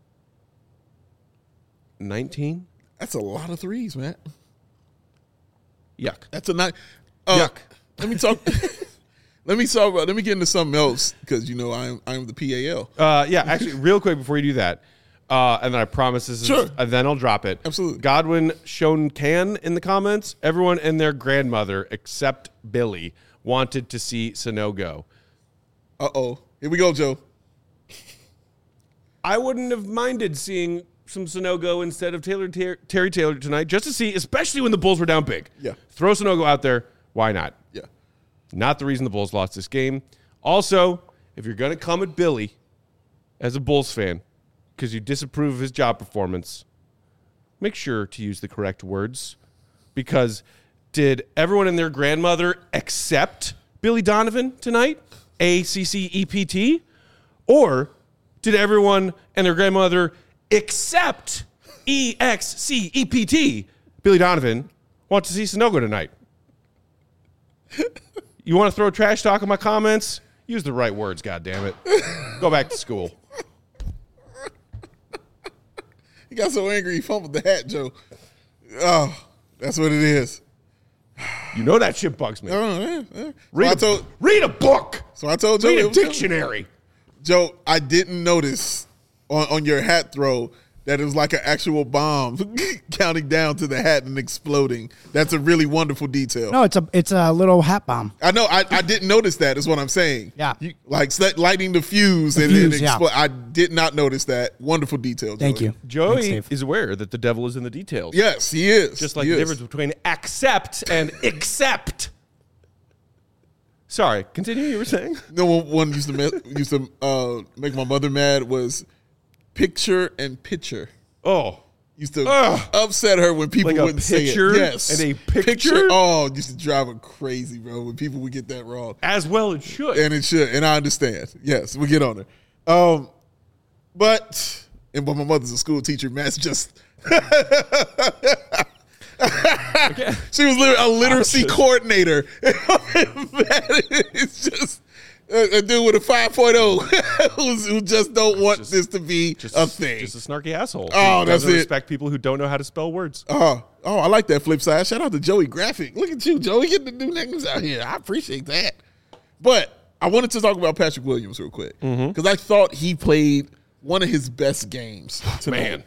19. That's a lot of threes, man. Yuck. That's a night. Yuck. Let me talk. Let me get into something else because I'm the PAL. Yeah, actually, real quick before you do that, and then I promise this is, Sure. and then I'll drop it. Absolutely. Godwin shown can in the comments. Everyone and their grandmother except Billy wanted to see Sano go. Here we go, Joe. I wouldn't have minded seeing some Sanogo instead of Terry Taylor tonight, just to see, especially when the Bulls were down big. Yeah. Throw Sanogo out there. Why not? Yeah. Not the reason the Bulls lost this game. Also, if you're going to come at Billy as a Bulls fan because you disapprove of his job performance, make sure to use the correct words. Because did everyone and their grandmother accept Billy Donovan tonight? ACCEPT? Or did everyone and their grandmother except EXCEPT? Billy Donovan want to see Sanogo tonight. You want to throw trash talk in my comments? Use the right words, goddammit. Go back to school. He got so angry he fumbled the hat, Joe. Oh, that's what it is. You know that shit bugs me. Read a book. So I told Joe. Read a dictionary. Joe, I didn't notice on your hat throw that it was like an actual bomb counting down to the hat and exploding. That's a really wonderful detail. No, it's a little hat bomb. I know. I didn't notice that is what I'm saying. Yeah. Like lighting the fuse and explode. I did not notice that. Wonderful detail, Joey. Thank you. Joey is aware that the devil is in the details. Yes, he is. Just like the difference between accept and accept. Sorry, continue. You were saying? No one used to make my mother mad was picture and pitcher. Oh. Used to upset her when people like wouldn't say it. Yes. And a picture? Oh, used to drive her crazy, bro, when people would get that wrong. As well it should. And it should. And I understand. Yes, we'll get on it. But my mother's a school teacher, Matt's just she was a literacy coordinator. It's just a dude with a 5.0 who just don't want this to be a thing. Just a snarky asshole. Oh, that's it. Respect people who don't know how to spell words. Oh, I like that flip side. Shout out to Joey Graphic. Look at you, Joey, getting the new names out here. I appreciate that. But I wanted to talk about Patrick Williams real quick because I thought he played one of his best games tonight. Man.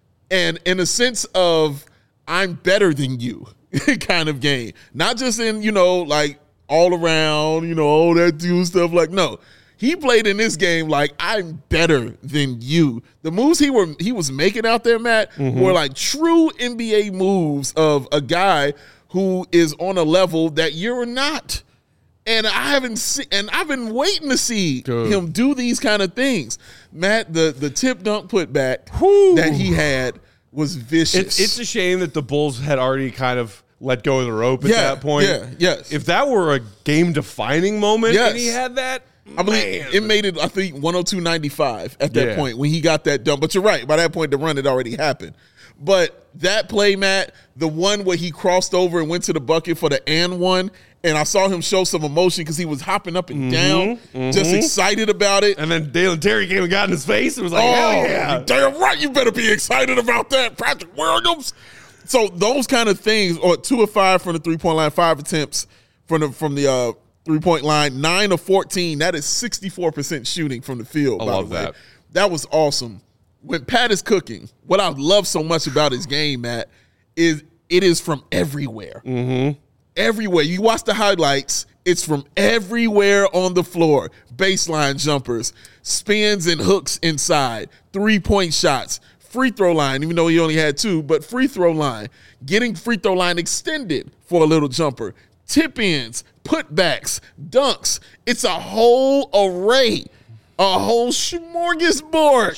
And in a sense of I'm better than you kind of game. Not just in, like all around, all that dude stuff. Like, no. He played in this game like I'm better than you. The moves he was making out there, Matt, were like true NBA moves of a guy who is on a level that you're not. And I've been waiting to see him do these kind of things. Matt, the tip dunk putback that he had was vicious. It's a shame that the Bulls had already kind of let go of the rope at that point. Yeah, yes. If that were a game-defining moment and he had that, I believe it made it, I think, 102.95 at that point when he got that done. But you're right. By that point, the run had already happened. But that play, Matt, the one where he crossed over and went to the bucket for the and one, and I saw him show some emotion because he was hopping up and down, just excited about it. And then Dalen Terry came and got in his face and was like, hell yeah. Damn right, you better be excited about that, Patrick Williams. So those kind of things, or 2 of 5 from the three-point line, 5 attempts from the three-point line, 9 of 14. That is 64% shooting from the field. I love that. That was awesome. When Pat is cooking, what I love so much about his game, Matt, is it is from everywhere. Everywhere. You watch the highlights, it's from everywhere on the floor. Baseline jumpers, spins and hooks inside, three-point shots, free throw line, even though he only had 2, but free throw line, getting free throw line extended for a little jumper, tip-ins, putbacks, dunks. It's a whole array, a whole smorgasbord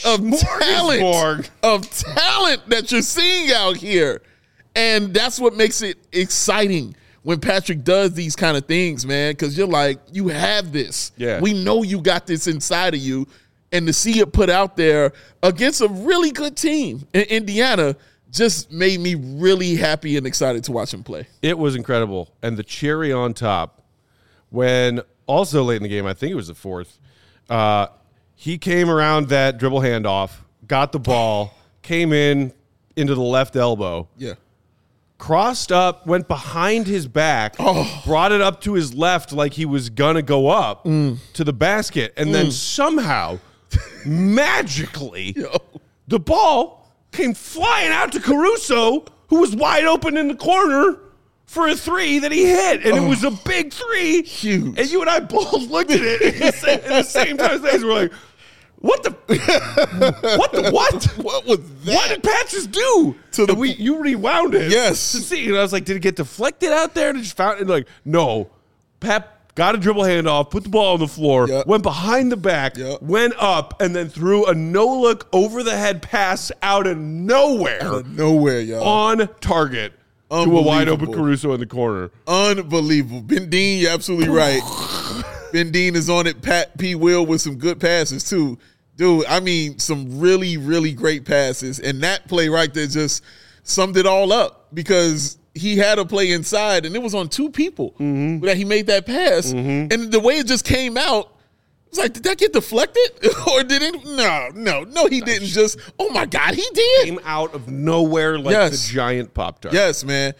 of talent that you're seeing out here. And that's what makes it exciting when Patrick does these kind of things, man, because you're like, you have this. Yeah. We know you got this inside of you. and to see it put out there against a really good team in Indiana just made me really happy and excited to watch him play. It was incredible. And the cherry on top, when also late in the game, I think it was the fourth, he came around that dribble handoff, got the ball, came into the left elbow. Yeah. Crossed up, went behind his back, brought it up to his left like he was going to go up to the basket, and then somehow, magically, the ball came flying out to Caruso, who was wide open in the corner for a three that he hit, and it was a big three. Huge. And you and I both looked at it at the same time. We're like, what the what? What was that? What did Pat just do? You rewound it. Yes. To see. And I was like, did it get deflected out there? And it just found it like, no. Pat got a dribble handoff, put the ball on the floor, went behind the back, went up, and then threw a no-look over-the-head pass out of nowhere. Out of nowhere, y'all. On target to a wide-open Caruso in the corner. Unbelievable. Ben Dean, you're absolutely right. Ben Dean is on it. Pat P. Will with some good passes, too. Dude, I mean, some really, really great passes. And that play right there just summed it all up because he had a play inside, and it was on two people that he made that pass. And the way it just came out, it was like, did that get deflected? Or did it? No, he didn't just, oh, my God, he did. Came out of nowhere like the giant Pop-Tart. Yes, man.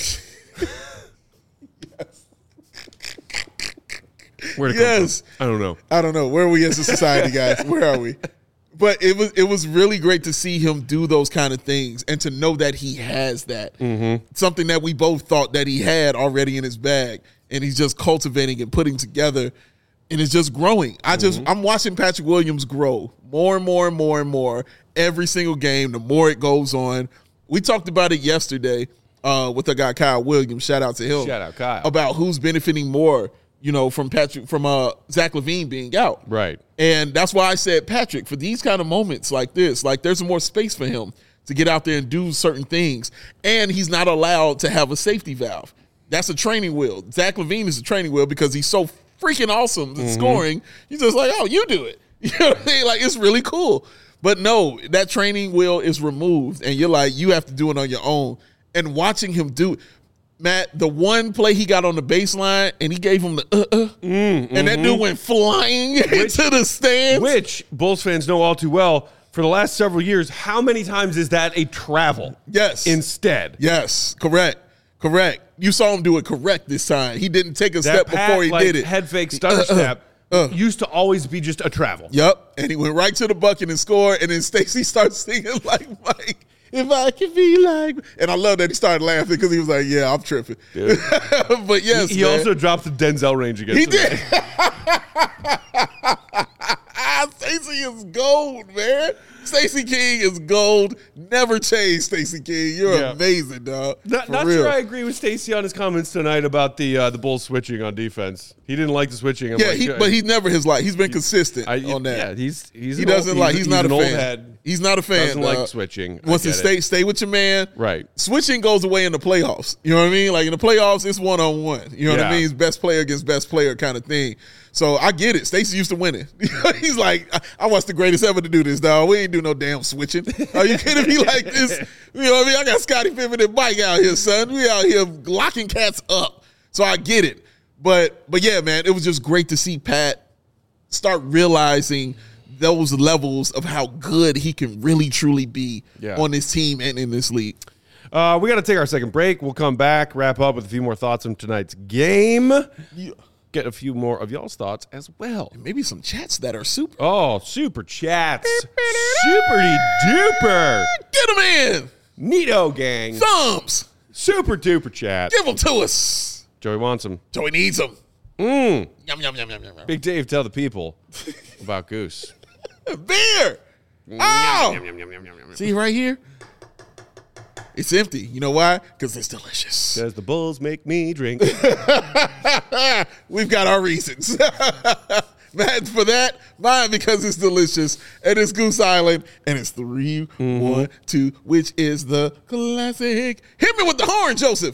Where'd it come from? I don't know. Where are we as a society, guys? Where are we? But it was really great to see him do those kind of things and to know that he has that. Something that we both thought that he had already in his bag, and he's just cultivating and putting together, and it's just growing. I'm watching Patrick Williams grow more and more and more and more every single game, the more it goes on. We talked about it yesterday with the guy Kyle Williams. Shout out to him. Shout out Kyle. About who's benefiting more, from Zach LaVine being out. Right. And that's why I said Patrick, for these kind of moments like this, like there's more space for him to get out there and do certain things. And he's not allowed to have a safety valve. That's a training wheel. Zach LaVine is a training wheel because he's so freaking awesome at scoring. He's just like, oh, you do it. You know what I mean? Like, it's really cool. But no, that training wheel is removed, and you're like, you have to do it on your own. And watching him do it, Matt, the one play he got on the baseline, and he gave him the and that dude went flying into the stands. Which Bulls fans know all too well. For the last several years, how many times is that a travel? Yes. Instead. Yes, correct. You saw him do it correct this time. He didn't take a step before he did it. Head fake stutter step used to always be just a travel. Yep, and he went right to the bucket and scored, and then Stacey starts singing like Mike. If I could be like, and I love that he started laughing because he was like, "Yeah, I'm tripping." But yes, he also dropped the Denzel range against. He did. Stacey is gold, man. Stacey King is gold. Never change, Stacey King. You're amazing, dog. Not sure I agree with Stacey on his comments tonight about the Bulls switching on defense. He didn't like the switching. But he's never his like. He's been consistent on that. Yeah, he's not a fan. Head. He's not a fan. Doesn't like switching. Wants to stay with your man. Right. Switching goes away in the playoffs. You know what I mean? Like in the playoffs, it's 1-on-1. You know what I mean? It's best player against best player kind of thing. So I get it. Stacey used to win it. He's like, I watched the greatest ever to do this, dog. We ain't do no damn switching. Are you kidding me? Like this? You know what I mean? I got Scottie Pippen and Mike out here, son. We out here locking cats up. So I get it. But yeah, man, it was just great to see Pat start realizing those levels of how good he can really truly be on this team and in this league. We got to take our second break. We'll come back, wrap up with a few more thoughts on tonight's game. Yeah. Get a few more of y'all's thoughts as well. And maybe some chats that are super. Oh, super chats. Super duper. Get them in. Neato gang. Thumbs. Super duper chat. Give them to us. Joey wants them. Joey needs them. Yum, yum, yum, yum, yum, yum. Big Dave, tell the people about Goose. Beer. Oh. See right here? It's empty. You know why? Because it's delicious. Because the Bulls make me drink. We've got our reasons. Matt, for that, mine because it's delicious. And it's Goose Island. And it's 3, 1, 2, which is the classic. Hit me with the horn, Joseph.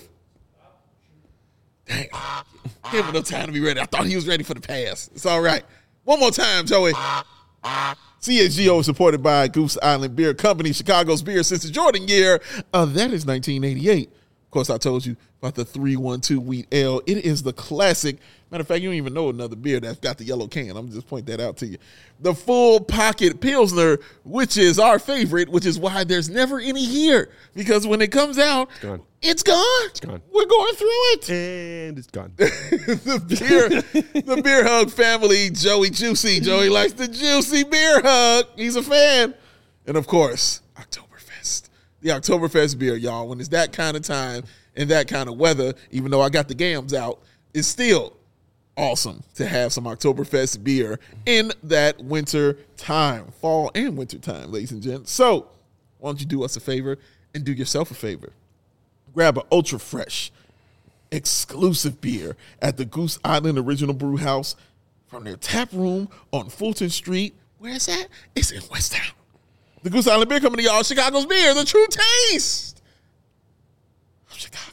Dang. Give him no time to be ready. I thought he was ready for the pass. It's all right. One more time, Joey. CHGO is supported by Goose Island Beer Company, Chicago's beer since the Jordan year. That is 1988. Of course, I told you about the 312 Wheat Ale. It is the classic. Matter of fact, you don't even know another beer that's got the yellow can. I'm just point that out to you. The Full Pocket Pilsner, which is our favorite, which is why there's never any here. Because when it comes out, it's gone. It's gone. We're going through it. And it's gone. the Beer Hug family, Joey Juicy. Joey likes the juicy beer hug. He's a fan. And of course, Oktoberfest. The Oktoberfest beer, y'all. When it's that kind of time and that kind of weather, even though I got the gams out, it's still awesome to have some Oktoberfest beer in that winter time, fall and winter time, ladies and gents. So why don't you do us a favor and do yourself a favor? Grab an ultra fresh, exclusive beer at the Goose Island Original Brew House from their tap room on Fulton Street. Where is that? It's in West Town. The Goose Island Beer Company, y'all. Chicago's beer, the true taste of Chicago.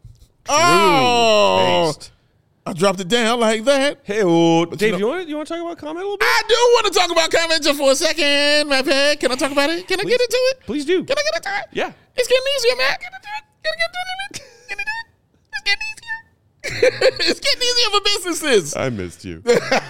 Taste. I dropped it down like that. Hey, Dave, you want to talk about comment a little bit? I do want to talk about comment just for a second, my pet. Can I talk about it? Can I get into it? Please do. Can I get into it? Yeah. It's getting easier, man. Can I do it? Can I get into it? Can I do it? It's getting easier. It's getting easier for businesses. I missed you.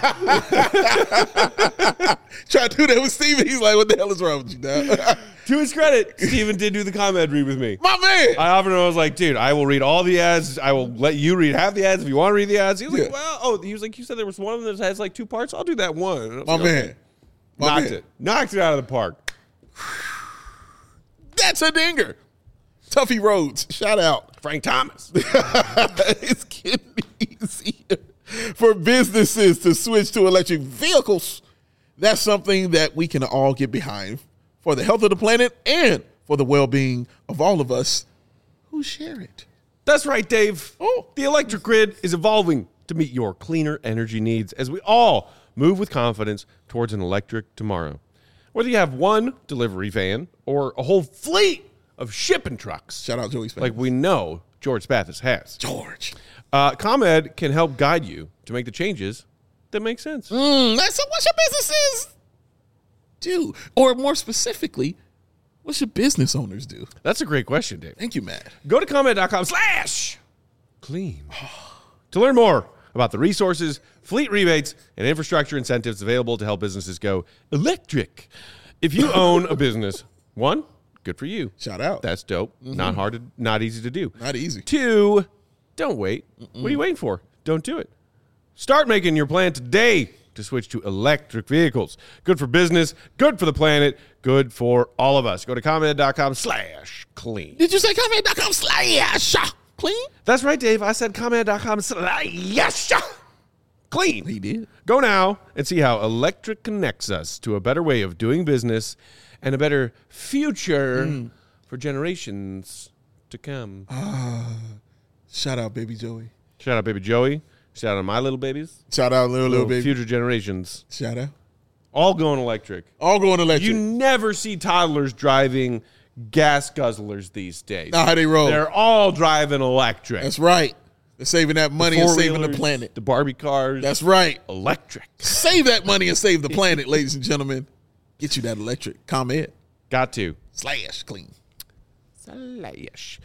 Try to do that with Steven. He's like, what the hell is wrong with you now? To his credit, Steven did do the comment read with me. My man. I offered him, I was like, dude, I will read all the ads. I will let you read half the ads if you want to read the ads. He was like, well, he was like, you said there was one of them that has like 2 parts. I'll do that one. My man. Knocked it out of the park. That's a dinger. Tuffy Rhodes. Shout out. Frank Thomas. It's getting easier for businesses to switch to electric vehicles. That's something that we can all get behind for the health of the planet and for the well-being of all of us who share it. That's right, Dave. Oh. The electric grid is evolving to meet your cleaner energy needs as we all move with confidence towards an electric tomorrow. Whether you have one delivery van or a whole fleet of shipping trucks. Shout out Joey Spathis. Like we know George Spathis has. George. ComEd can help guide you to make the changes that make sense. That's what your businesses do. Or more specifically, what should business owners do? That's a great question, Dave. Thank you, Matt. Go to ComEd.com/clean to learn more about the resources, fleet rebates, and infrastructure incentives available to help businesses go electric. If you own a business, 1, good for you. Shout out. That's dope. Mm-hmm. Not easy to do. Not easy. 2, don't wait. What are you waiting for? Don't do it. Start making your plan today to switch to electric vehicles. Good for business, good for the planet, good for all of us. Go to ComEd.com/clean. Did you say ComEd.com/clean? That's right, Dave. I said ComEd.com/clean. He did. Go now and see how electric connects us to a better way of doing business and a better future for generations to come. Shout out, baby Joey. Shout out, baby Joey. Shout out, my little babies. Shout out, little baby. Future generations. Shout out. All going electric. All going electric. You never see toddlers driving gas guzzlers these days. Not how they roll. They're all driving electric. That's right. They're saving that money and saving the planet. The Barbie cars. That's right. Electric. Save that money and save the planet, ladies and gentlemen. Get you that electric. ComEd. Got to. /clean. Slash.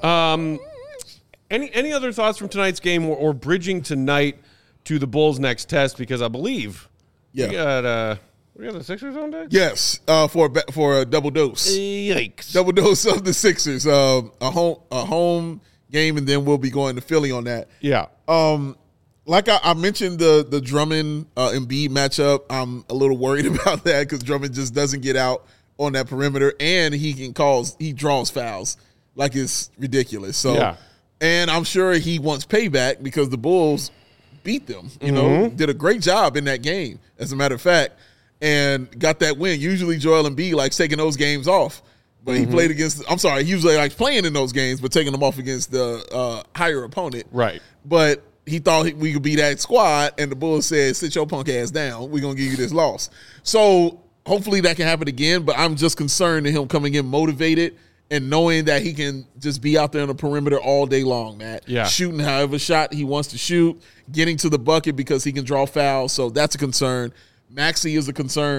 Any other thoughts from tonight's game or bridging tonight to the Bulls' next test? Because I believe we got the Sixers on deck? Yes, for a double dose. Yikes. Double dose of the Sixers. A home game, and then we'll be going to Philly on that. Yeah. Like I mentioned the Drummond Embiid matchup, I'm a little worried about that because Drummond just doesn't get out on that perimeter, and he draws fouls like it's ridiculous. So, yeah. And I'm sure he wants payback because the Bulls beat them. You know, did a great job in that game, as a matter of fact, and got that win. Usually Joel Embiid likes taking those games off. But he played against – I'm sorry, he usually likes playing in those games, but taking them off against the higher opponent. Right. But he thought we could be that squad, and the Bulls said, sit your punk ass down. We're going to give you this loss. So hopefully that can happen again, but I'm just concerned to him coming in motivated and knowing that he can just be out there on the perimeter all day long, Matt. Yeah. Shooting however shot he wants to shoot, getting to the bucket because he can draw fouls. So that's a concern. Maxey is a concern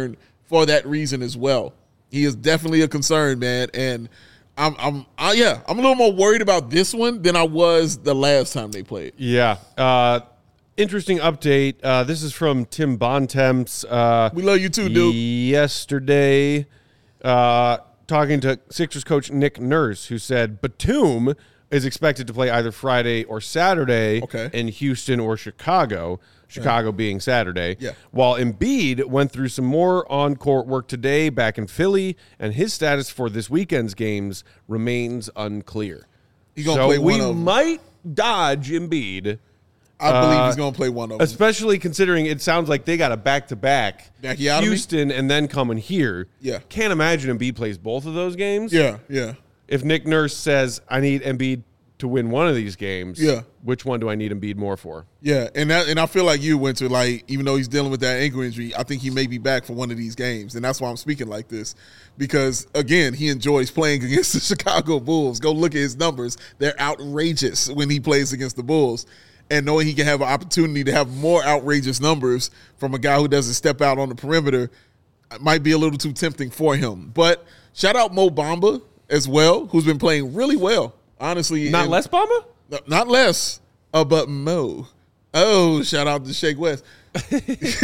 for that reason as well. He is definitely a concern, man. And I'm a little more worried about this one than I was the last time they played. Yeah. Interesting update. This is from Tim Bontemps. We love you too, dude. Yesterday, talking to Sixers coach Nick Nurse, who said Batum is expected to play either Friday or Saturday in Houston or Chicago. Chicago being Saturday. Yeah. While Embiid went through some more on-court work today back in Philly, and his status for this weekend's games remains unclear. He's gonna play one of we them. might dodge Embiid. I believe he's going to play one of them. Especially considering it sounds like they got a back-to-back Houston and then coming here. Yeah. Can't imagine Embiid plays both of those games. Yeah. If Nick Nurse says, I need Embiid to win one of these games, which one do I need Embiid more for? Yeah, and I feel like you, Winter, like, even though he's dealing with that ankle injury, I think he may be back for one of these games, and that's why I'm speaking like this. Because, again, he enjoys playing against the Chicago Bulls. Go look at his numbers. They're outrageous when he plays against the Bulls. And knowing he can have an opportunity to have more outrageous numbers from a guy who doesn't step out on the perimeter might be a little too tempting for him. But shout out Mo Bamba as well, who's been playing really well, honestly. Not less Bamba? Not less, but Mo. Oh, shout out to Shake West. You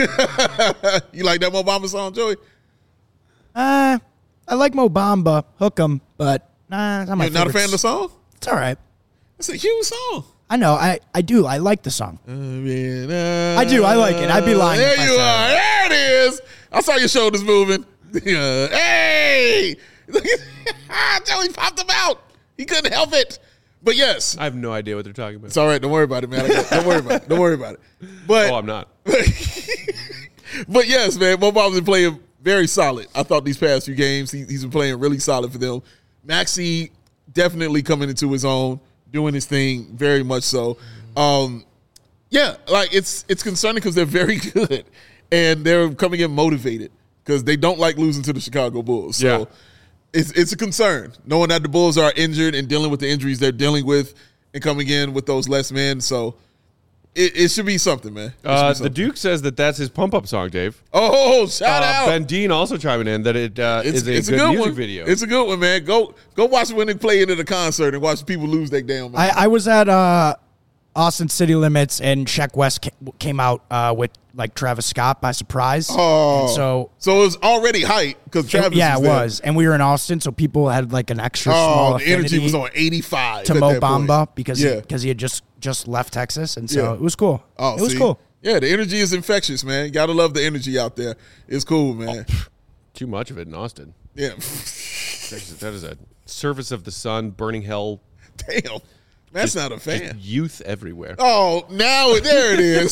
like that Mo Bamba song, Joey? I like Mo Bamba, hook 'em, but it's not my You're not a fan of the song? It's all right. It's a huge song. I know. I do. I like the song. I do. I like it. I'd be lying There if I you said are. it. There it is. I saw your shoulders moving. Hey! Joey popped him out. He couldn't help it. But yes. I have no idea what they're talking about. It's all right. Don't worry about it, man. Don't worry about it. Don't worry about it. But, I'm not. but yes, man, Mo Bamba's been playing very solid. I thought these past few games, he's been playing really solid for them. Maxey definitely coming into his own, doing his thing very much so. Yeah, like it's concerning because they're very good and they're coming in motivated because they don't like losing to the Chicago Bulls. So it's a concern knowing that the Bulls are injured and dealing with the injuries they're dealing with and coming in with those less men. So it should be something, man. The Duke says that's his pump-up song, Dave. Oh, shout out. Ben Dean also chiming in that it is a good music video. It's a good one, man. Go watch it when they play it at a concert and watch people lose their damn mind. I was at Austin City Limits, and Sheck West came out with like Travis Scott by surprise. Oh, and so it was already hype because Travis. Yeah, was it there. was, and we were in Austin, so people had like an extra small the energy affinity was on 85 to at Mo that point. Bamba because he had just left Texas, and so it was cool. Oh, it was cool. Yeah, the energy is infectious, man. You gotta love the energy out there. It's cool, man. Too much of it in Austin. Yeah, That is a surface of the sun, burning hell. damn. That's not a fan. Just youth everywhere. Oh, there it is.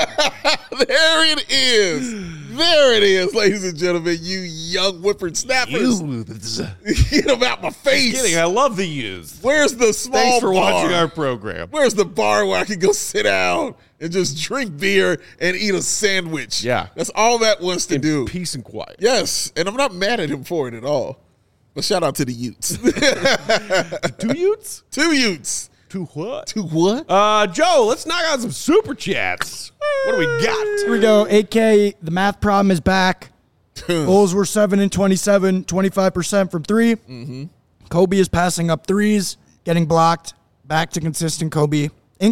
There it is. There it is, ladies and gentlemen. You young whippersnappers. Get them out my face. Kidding, I love the youth. Where's the small Thanks for bar? watching our program. Where's the bar where I can go sit down and just drink beer and eat a sandwich? Yeah. That's all that wants to do. Peace and quiet. Yes, and I'm not mad at him for it at all. But shout out to the Utes. 2 Utes? 2 Utes. 2 what? 2 what? Joe, let's knock out some super chats. What do we got? Here we go. AK, the math problem is back. Bulls were 7 and 27, 25% from 3. Mm-hmm. Kobe is passing up threes, getting blocked. Back to inconsistent Kobe.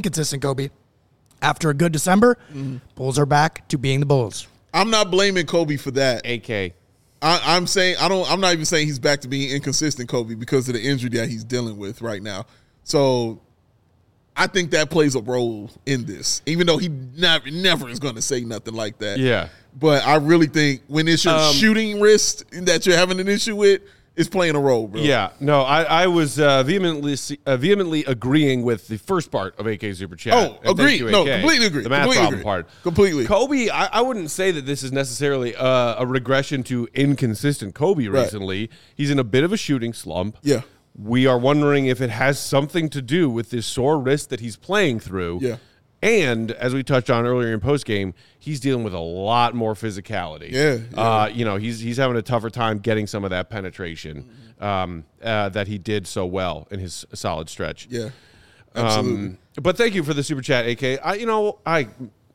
After a good December, Bulls are back to being the Bulls. I'm not blaming Kobe for that. AK. I'm saying I'm not even saying he's back to being inconsistent Kobe because of the injury that he's dealing with right now. So I think that plays a role in this, even though he never is going to say nothing like that. Yeah. But I really think when it's your shooting wrist that you're having an issue with, it's playing a role, bro. Yeah. No, I was vehemently agreeing with the first part of AK's Super Chat. Oh, And agreed. thank you, No, AK. completely agree. The math Completely problem agree. part. Completely. Kobe, I wouldn't say that this is necessarily a regression to inconsistent Kobe recently. He's in a bit of a shooting slump. Yeah. We are wondering if it has something to do with this sore wrist that he's playing through. Yeah. And as we touched on earlier in postgame, he's dealing with a lot more physicality. Yeah. He's having a tougher time getting some of that penetration that he did so well in his solid stretch. Yeah. Absolutely. But thank you for the super chat, AK.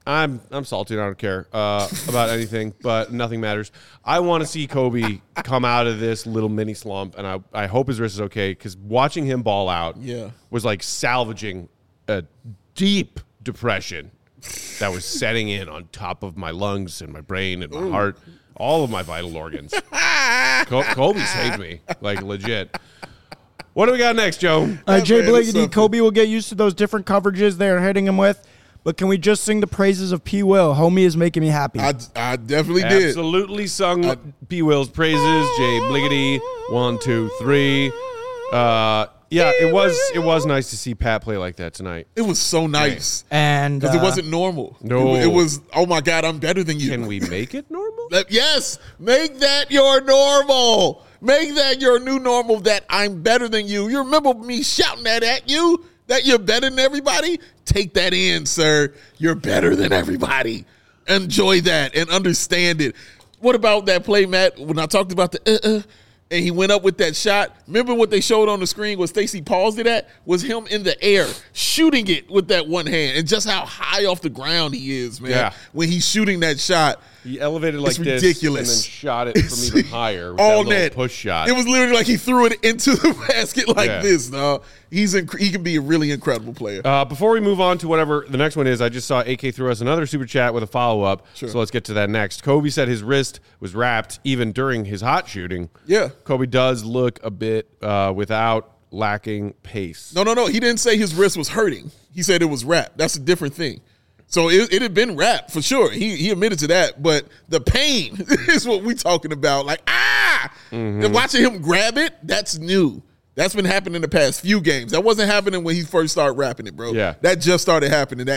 I'm salty. I don't care about anything, but nothing matters. I want to see Kobe come out of this little mini slump, and I hope his wrist is okay, because watching him ball out was like salvaging a deep depression that was setting in on top of my lungs and my brain and my heart, all of my vital organs. Kobe saved me, like legit. What do we got next, Joe? Jay Bliggity, Kobe will get used to those different coverages they're hitting him with. But can we just sing the praises of P. Will? Homie is making me happy. I definitely did. Absolutely sung P. Will's praises. Jay Bliggity, 1, 2, 3. Yeah, it was nice to see Pat play like that tonight. It was so nice. And because it wasn't normal. No. It was, oh my God, I'm better than you. Can we make it normal? Yes. Make that your normal. Make that your new normal, that I'm better than you. You remember me shouting that at you? That you're better than everybody? Take that in, sir. You're better than everybody. Enjoy that and understand it. What about that play, Matt, when I talked about the and he went up with that shot? Remember what they showed on the screen was Stacey paused it at? Was him in the air shooting it with that one hand, and just how high off the ground he is, man. Yeah. When he's shooting that shot. He elevated like it's this ridiculous. and then shot it from even higher with all that net little push shot. It was literally like he threw it into the basket like Yeah. this. No, he can be a really incredible player. Before we move on to whatever the next one is, I just saw AK threw us another super chat with a follow-up. Sure. So let's get to that next. Kobe said his wrist was wrapped even during his hot shooting. Yeah. Kobe does look a bit without lacking pace. No. He didn't say his wrist was hurting. He said it was wrapped. That's a different thing. So it had been wrapped for sure. He admitted to that. But the pain is what we talking about. Like, And watching him grab it, that's new. That's been happening the past few games. That wasn't happening when he first started rapping it, bro. Yeah. That just started happening.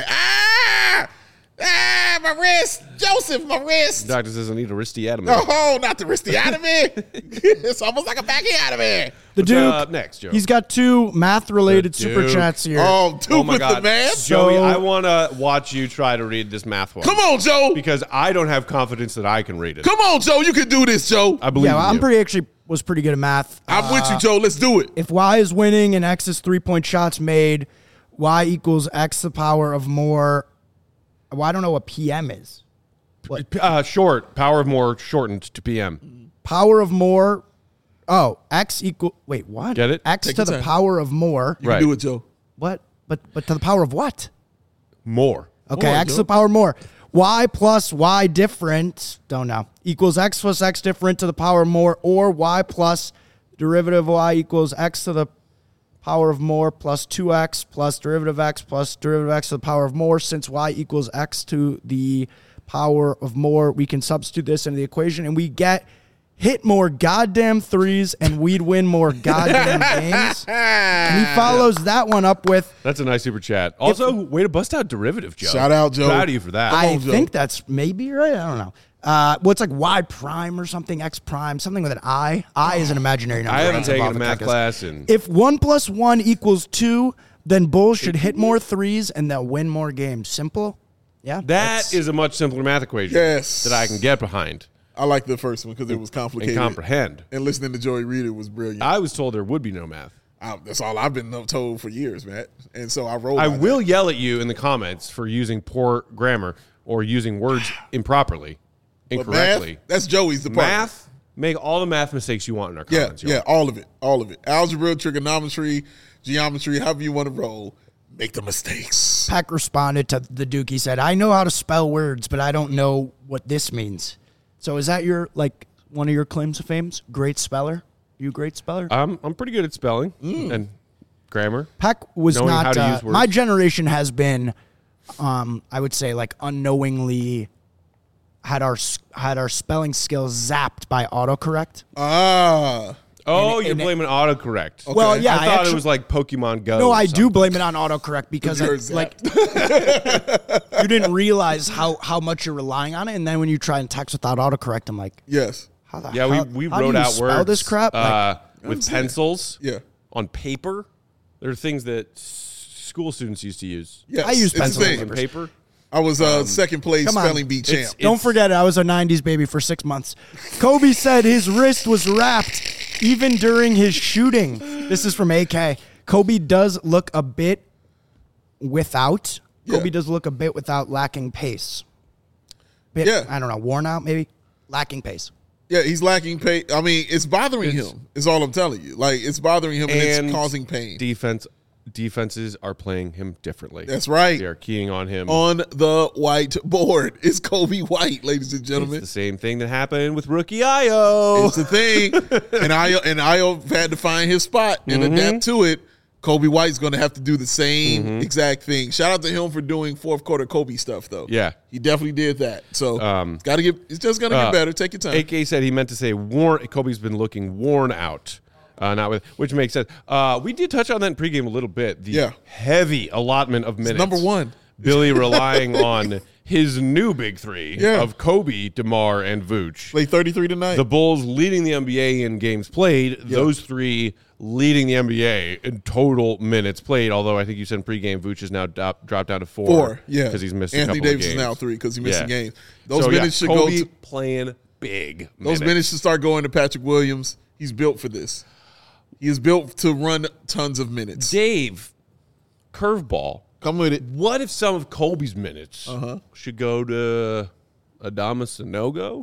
My wrist. Joseph, my wrist. The doctor says I need a wristotomy. No, not the wristotomy. It's almost like a bacchiotomy. The Duke. Up next, Joe? He's got 2 math-related The super Duke. chats here. Oh, two Oh my with God. the math? Joey, So- I want to watch you try to read this math one. Come on, Joe. Because I don't have confidence that I can read it. Come on, Joe. You can do this, Joe. I believe Yeah, in you. I'm was pretty good at math. I'm with you, Joe. Let's do it. If Y is winning and X is 3-point shots made, Y equals X the power of more. Well, I don't know what PM is. Short. Power of more shortened to PM. Power of more. Oh, X equal. Wait, what? Get it? X Take to your the time. power of more. You Right. can do it, Joe. What? But to the power of what? More. Okay, More, X to Joe. the power of more. Y plus Y different. Don't know. Equals X plus X different to the power of more, or Y plus derivative of Y equals X to the power of more plus 2X plus derivative X plus derivative X to the power of more. Since Y equals X to the power of more, we can substitute this into the equation and we hit more goddamn threes and we'd win more goddamn games. And he follows that one up with, That's a nice super chat. Also, way to bust out derivative, Joe. Shout out, Joe. Proud of you for that. I on, Joe. think that's maybe right. I don't know. What's like Y prime or something, X prime, something with an I. I is an imaginary number. I haven't That's taken above a the math calculus. class and If 1 + 1 equals 2, then Bulls should hit more threes and they'll win more games. Simple. Yeah. that is a much simpler math equation Yes. that I can get behind I like the first one because it was and complicated. comprehend. And listening to Joey read it was brilliant. I was told there would be no math. That's all I've been told for years, man. And so I rolled. I by will that. yell at you in the comments for using poor grammar or using words improperly, But incorrectly. math, that's Joey's department. Math, make all the math mistakes you want in our Yeah, comments. yeah, all of it. Algebra, trigonometry, geometry, however you want to roll, make the mistakes. Peck responded to the Duke. He said, I know how to spell words, but I don't know what this means. So is that one of your claims to fame? Great speller? You a great speller? I'm pretty good at spelling and grammar. Peck was knowing not. how to use words. My generation has been, I would say, like unknowingly had our spelling skills zapped by autocorrect. Oh, you're and- blaming autocorrect. Well, yeah, I thought actually- it was like Pokemon Go. No, or I do something. blame it on autocorrect because You're you didn't realize how much you're relying on it, and then when you try and text without autocorrect, I'm like, Yes. how the Yeah, hell, we how do wrote you out spell words this crap? with pencils. Yeah. On paper. There are things that school students used to use. Yes. I use it's the pencils thing. and On paper. I was second place Come on. spelling bee champ. It's- Don't forget it. I was a 90s baby for 6 months. Kobe said his wrist was wrapped even during his shooting. This is from AK. Kobe does look a bit without. Kobe does look a bit without lacking pace. I don't know, worn out maybe, lacking pace. Yeah, he's lacking pace. I mean, it's bothering him. Is all I'm telling you. Like, it's bothering him and it's causing pain. Defenses are playing him differently. That's right. They are keying on him. On the whiteboard. It's Kobe White, ladies and gentlemen. It's the same thing that happened with rookie Io. It's the thing. and Io had to find his spot and adapt to it. Kobe White's going to have to do the same exact thing. Shout out to him for doing fourth quarter Kobe stuff, though. Yeah. He definitely did that. So it's just going to get better. Take your time. AK said he meant to say Kobe's been looking worn out. Which makes sense. We did touch on that in pregame a little bit. The heavy allotment of minutes. It's number one. Billy relying on his new big three of Kobe, DeMar, and Vooch. Played 33 tonight. The Bulls leading the NBA in games played. Those three leading the NBA in total minutes played. Although I think you said in pregame, Vooch is now dropped down to 4. Because he's missed Anthony a couple Davis of games. is now 3 because he missed a game. Those minutes should Kobe go to playing big. Those minutes should start going to Patrick Williams. He's built for this. He is built to run tons of minutes. Dave, curveball. Come with it. What if some of Kobe's minutes should go to Adama Sanogo?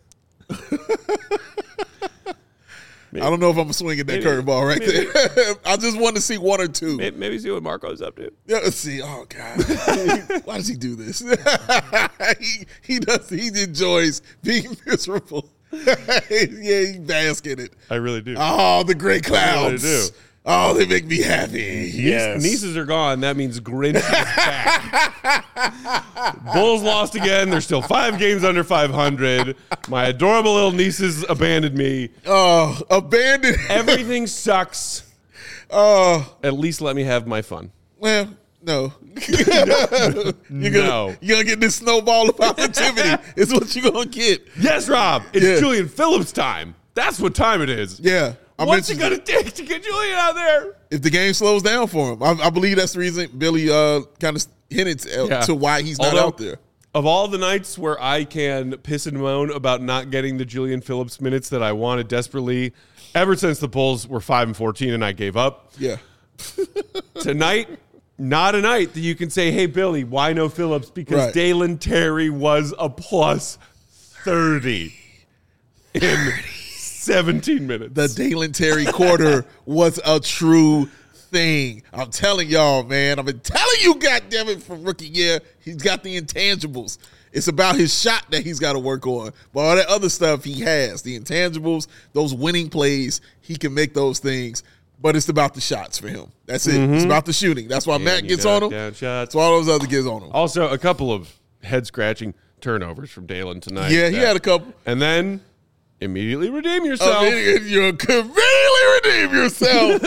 I don't know if I'm swinging that curveball right there. I just want to see one or two. Maybe see what Marco's up to. Yeah, let's see. Oh God, why does he do this? he enjoys being miserable. He basks in it. I really do. Oh, the gray clouds. I really do. Oh, they make me happy. Yes. Nieces are gone. That means Grinch is back. Bulls lost again. They're still 5 games under 500. My adorable little nieces abandoned me. Oh, abandoned. Everything sucks. At least let me have my fun. Well, no. You're gonna get this snowball of positivity. Is what you're gonna get. Yes, Rob. It's Julian Phillips time. That's what time it is. Yeah. What's it going to take to get Julian out there? If the game slows down for him. I believe that's the reason Billy kind of hinted to why he's not out there. Of all the nights where I can piss and moan about not getting the Julian Phillips minutes that I wanted desperately, ever since the Bulls were 5-14 and I gave up. Yeah. Tonight, not a night that you can say, hey, Billy, why no Phillips? Because Dalen Terry was a plus 30 in 17 minutes. The Dalen Terry quarter was a true thing. I'm telling y'all, man. I've been telling you, goddammit, for rookie year, he's got the intangibles. It's about his shot that he's got to work on. But all that other stuff he has, the intangibles, those winning plays, he can make those things. But it's about the shots for him. That's it. It's about the shooting. That's why Matt gets on him. That's why all those other kids on him. Also, a couple of head-scratching turnovers from Dalen tonight. Yeah, he had a couple. And then immediately redeem yourself. You immediately redeem yourself.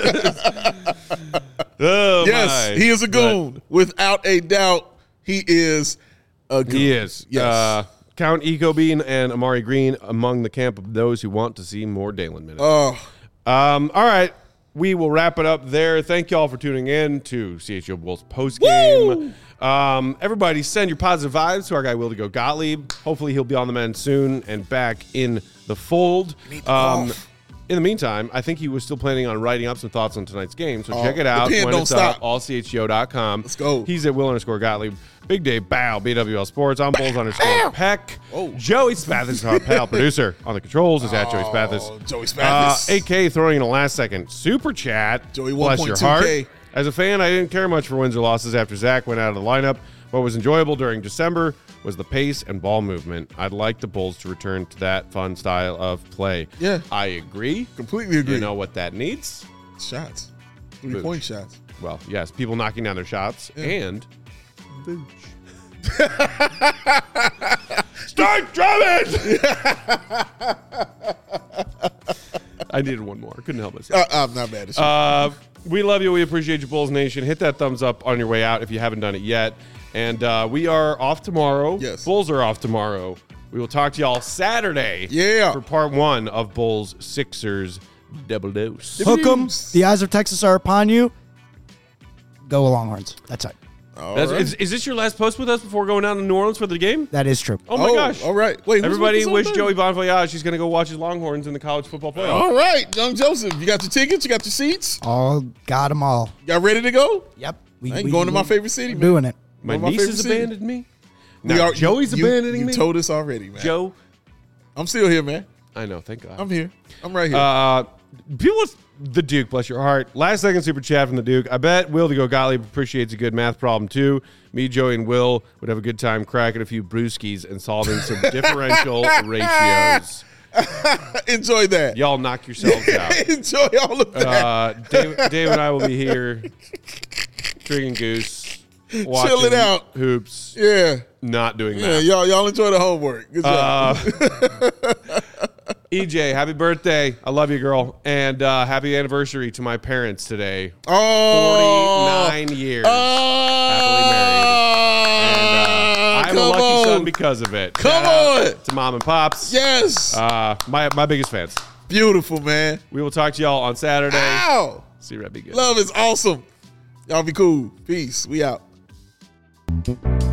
Yes, he is a goon. Without a doubt, he is a goon. He is. Yes. Count Eco Bean and Amari Green among the camp of those who want to see more Dalen minutes. Oh. All right. We will wrap it up there. Thank you all for tuning in to CHO Bulls postgame. Everybody send your positive vibes to our guy, Wildy Go Gottlieb. Hopefully he'll be on the mend soon and back in the fold. In the meantime, I think he was still planning on writing up some thoughts on tonight's game. So check it out when it's up, allcho.com. Let's go. He's at Will_Gottlieb. Big Dave Bow, BWL Sports. I'm Bulls_Peck. Joey Spathis, our pal producer on the controls, is at Joey Spathis. Joey Spathis. AK throwing in a last-second super chat. Joey Bless your heart. 1.2K. As a fan, I didn't care much for wins or losses after Zach went out of the lineup. What was enjoyable during December was the pace and ball movement. I'd like the Bulls to return to that fun style of play. Yeah. I agree. Completely agree. You know what that needs? Shots. 3-point shots. Well, yes, people knocking down their shots and Vooch. Start drumming! I needed one more. Couldn't help myself. I'm not mad at you. We love you. We appreciate you, Bulls Nation. Hit that thumbs up on your way out if you haven't done it yet. And we are off tomorrow. Yes. Bulls are off tomorrow. We will talk to y'all Saturday for part 1 of Bulls Sixers Double Dose. Hook 'em. The eyes of Texas are upon you. Go Longhorns. That's it. Is this your last post with us before going down to New Orleans for the game? That is true. Oh, my gosh. All right. Wait, everybody wish Joey Bon Voyage. He's going to go watch his Longhorns in the college football playoff. All right, Young Joseph. You got your tickets? You got your seats? All got them all. Y'all ready to go? Yep. I ain't going to my favorite city, man. Doing it. My One of my niece has favorite abandoned me. We Now are- Joey's abandoning you me. told us already, man. Joe, I'm still here, man. I know. Thank God. I'm here. I'm right here. People with the Duke, bless your heart. Last second super chat from the Duke. I bet Will to go Gottlieb appreciates a good math problem too. Me, Joey, and Will would have a good time cracking a few brewskis and solving some differential ratios. Enjoy that. Y'all knock yourselves out. Enjoy all of that. Dave and I will be here drinking goose, watching Chilling out. hoops, Yeah. not doing Yeah, that. y'all enjoy the homework. Good job. EJ, happy birthday. I love you, girl. And happy anniversary to my parents today. Oh. 49 years. Happily married. And I'm a lucky son because of it. Come Shout out on. to mom and pops. Yes. My biggest fans. Beautiful, man. We will talk to y'all on Saturday. Ow. See you, Red. Be good. Love is awesome. Y'all be cool. Peace. We out.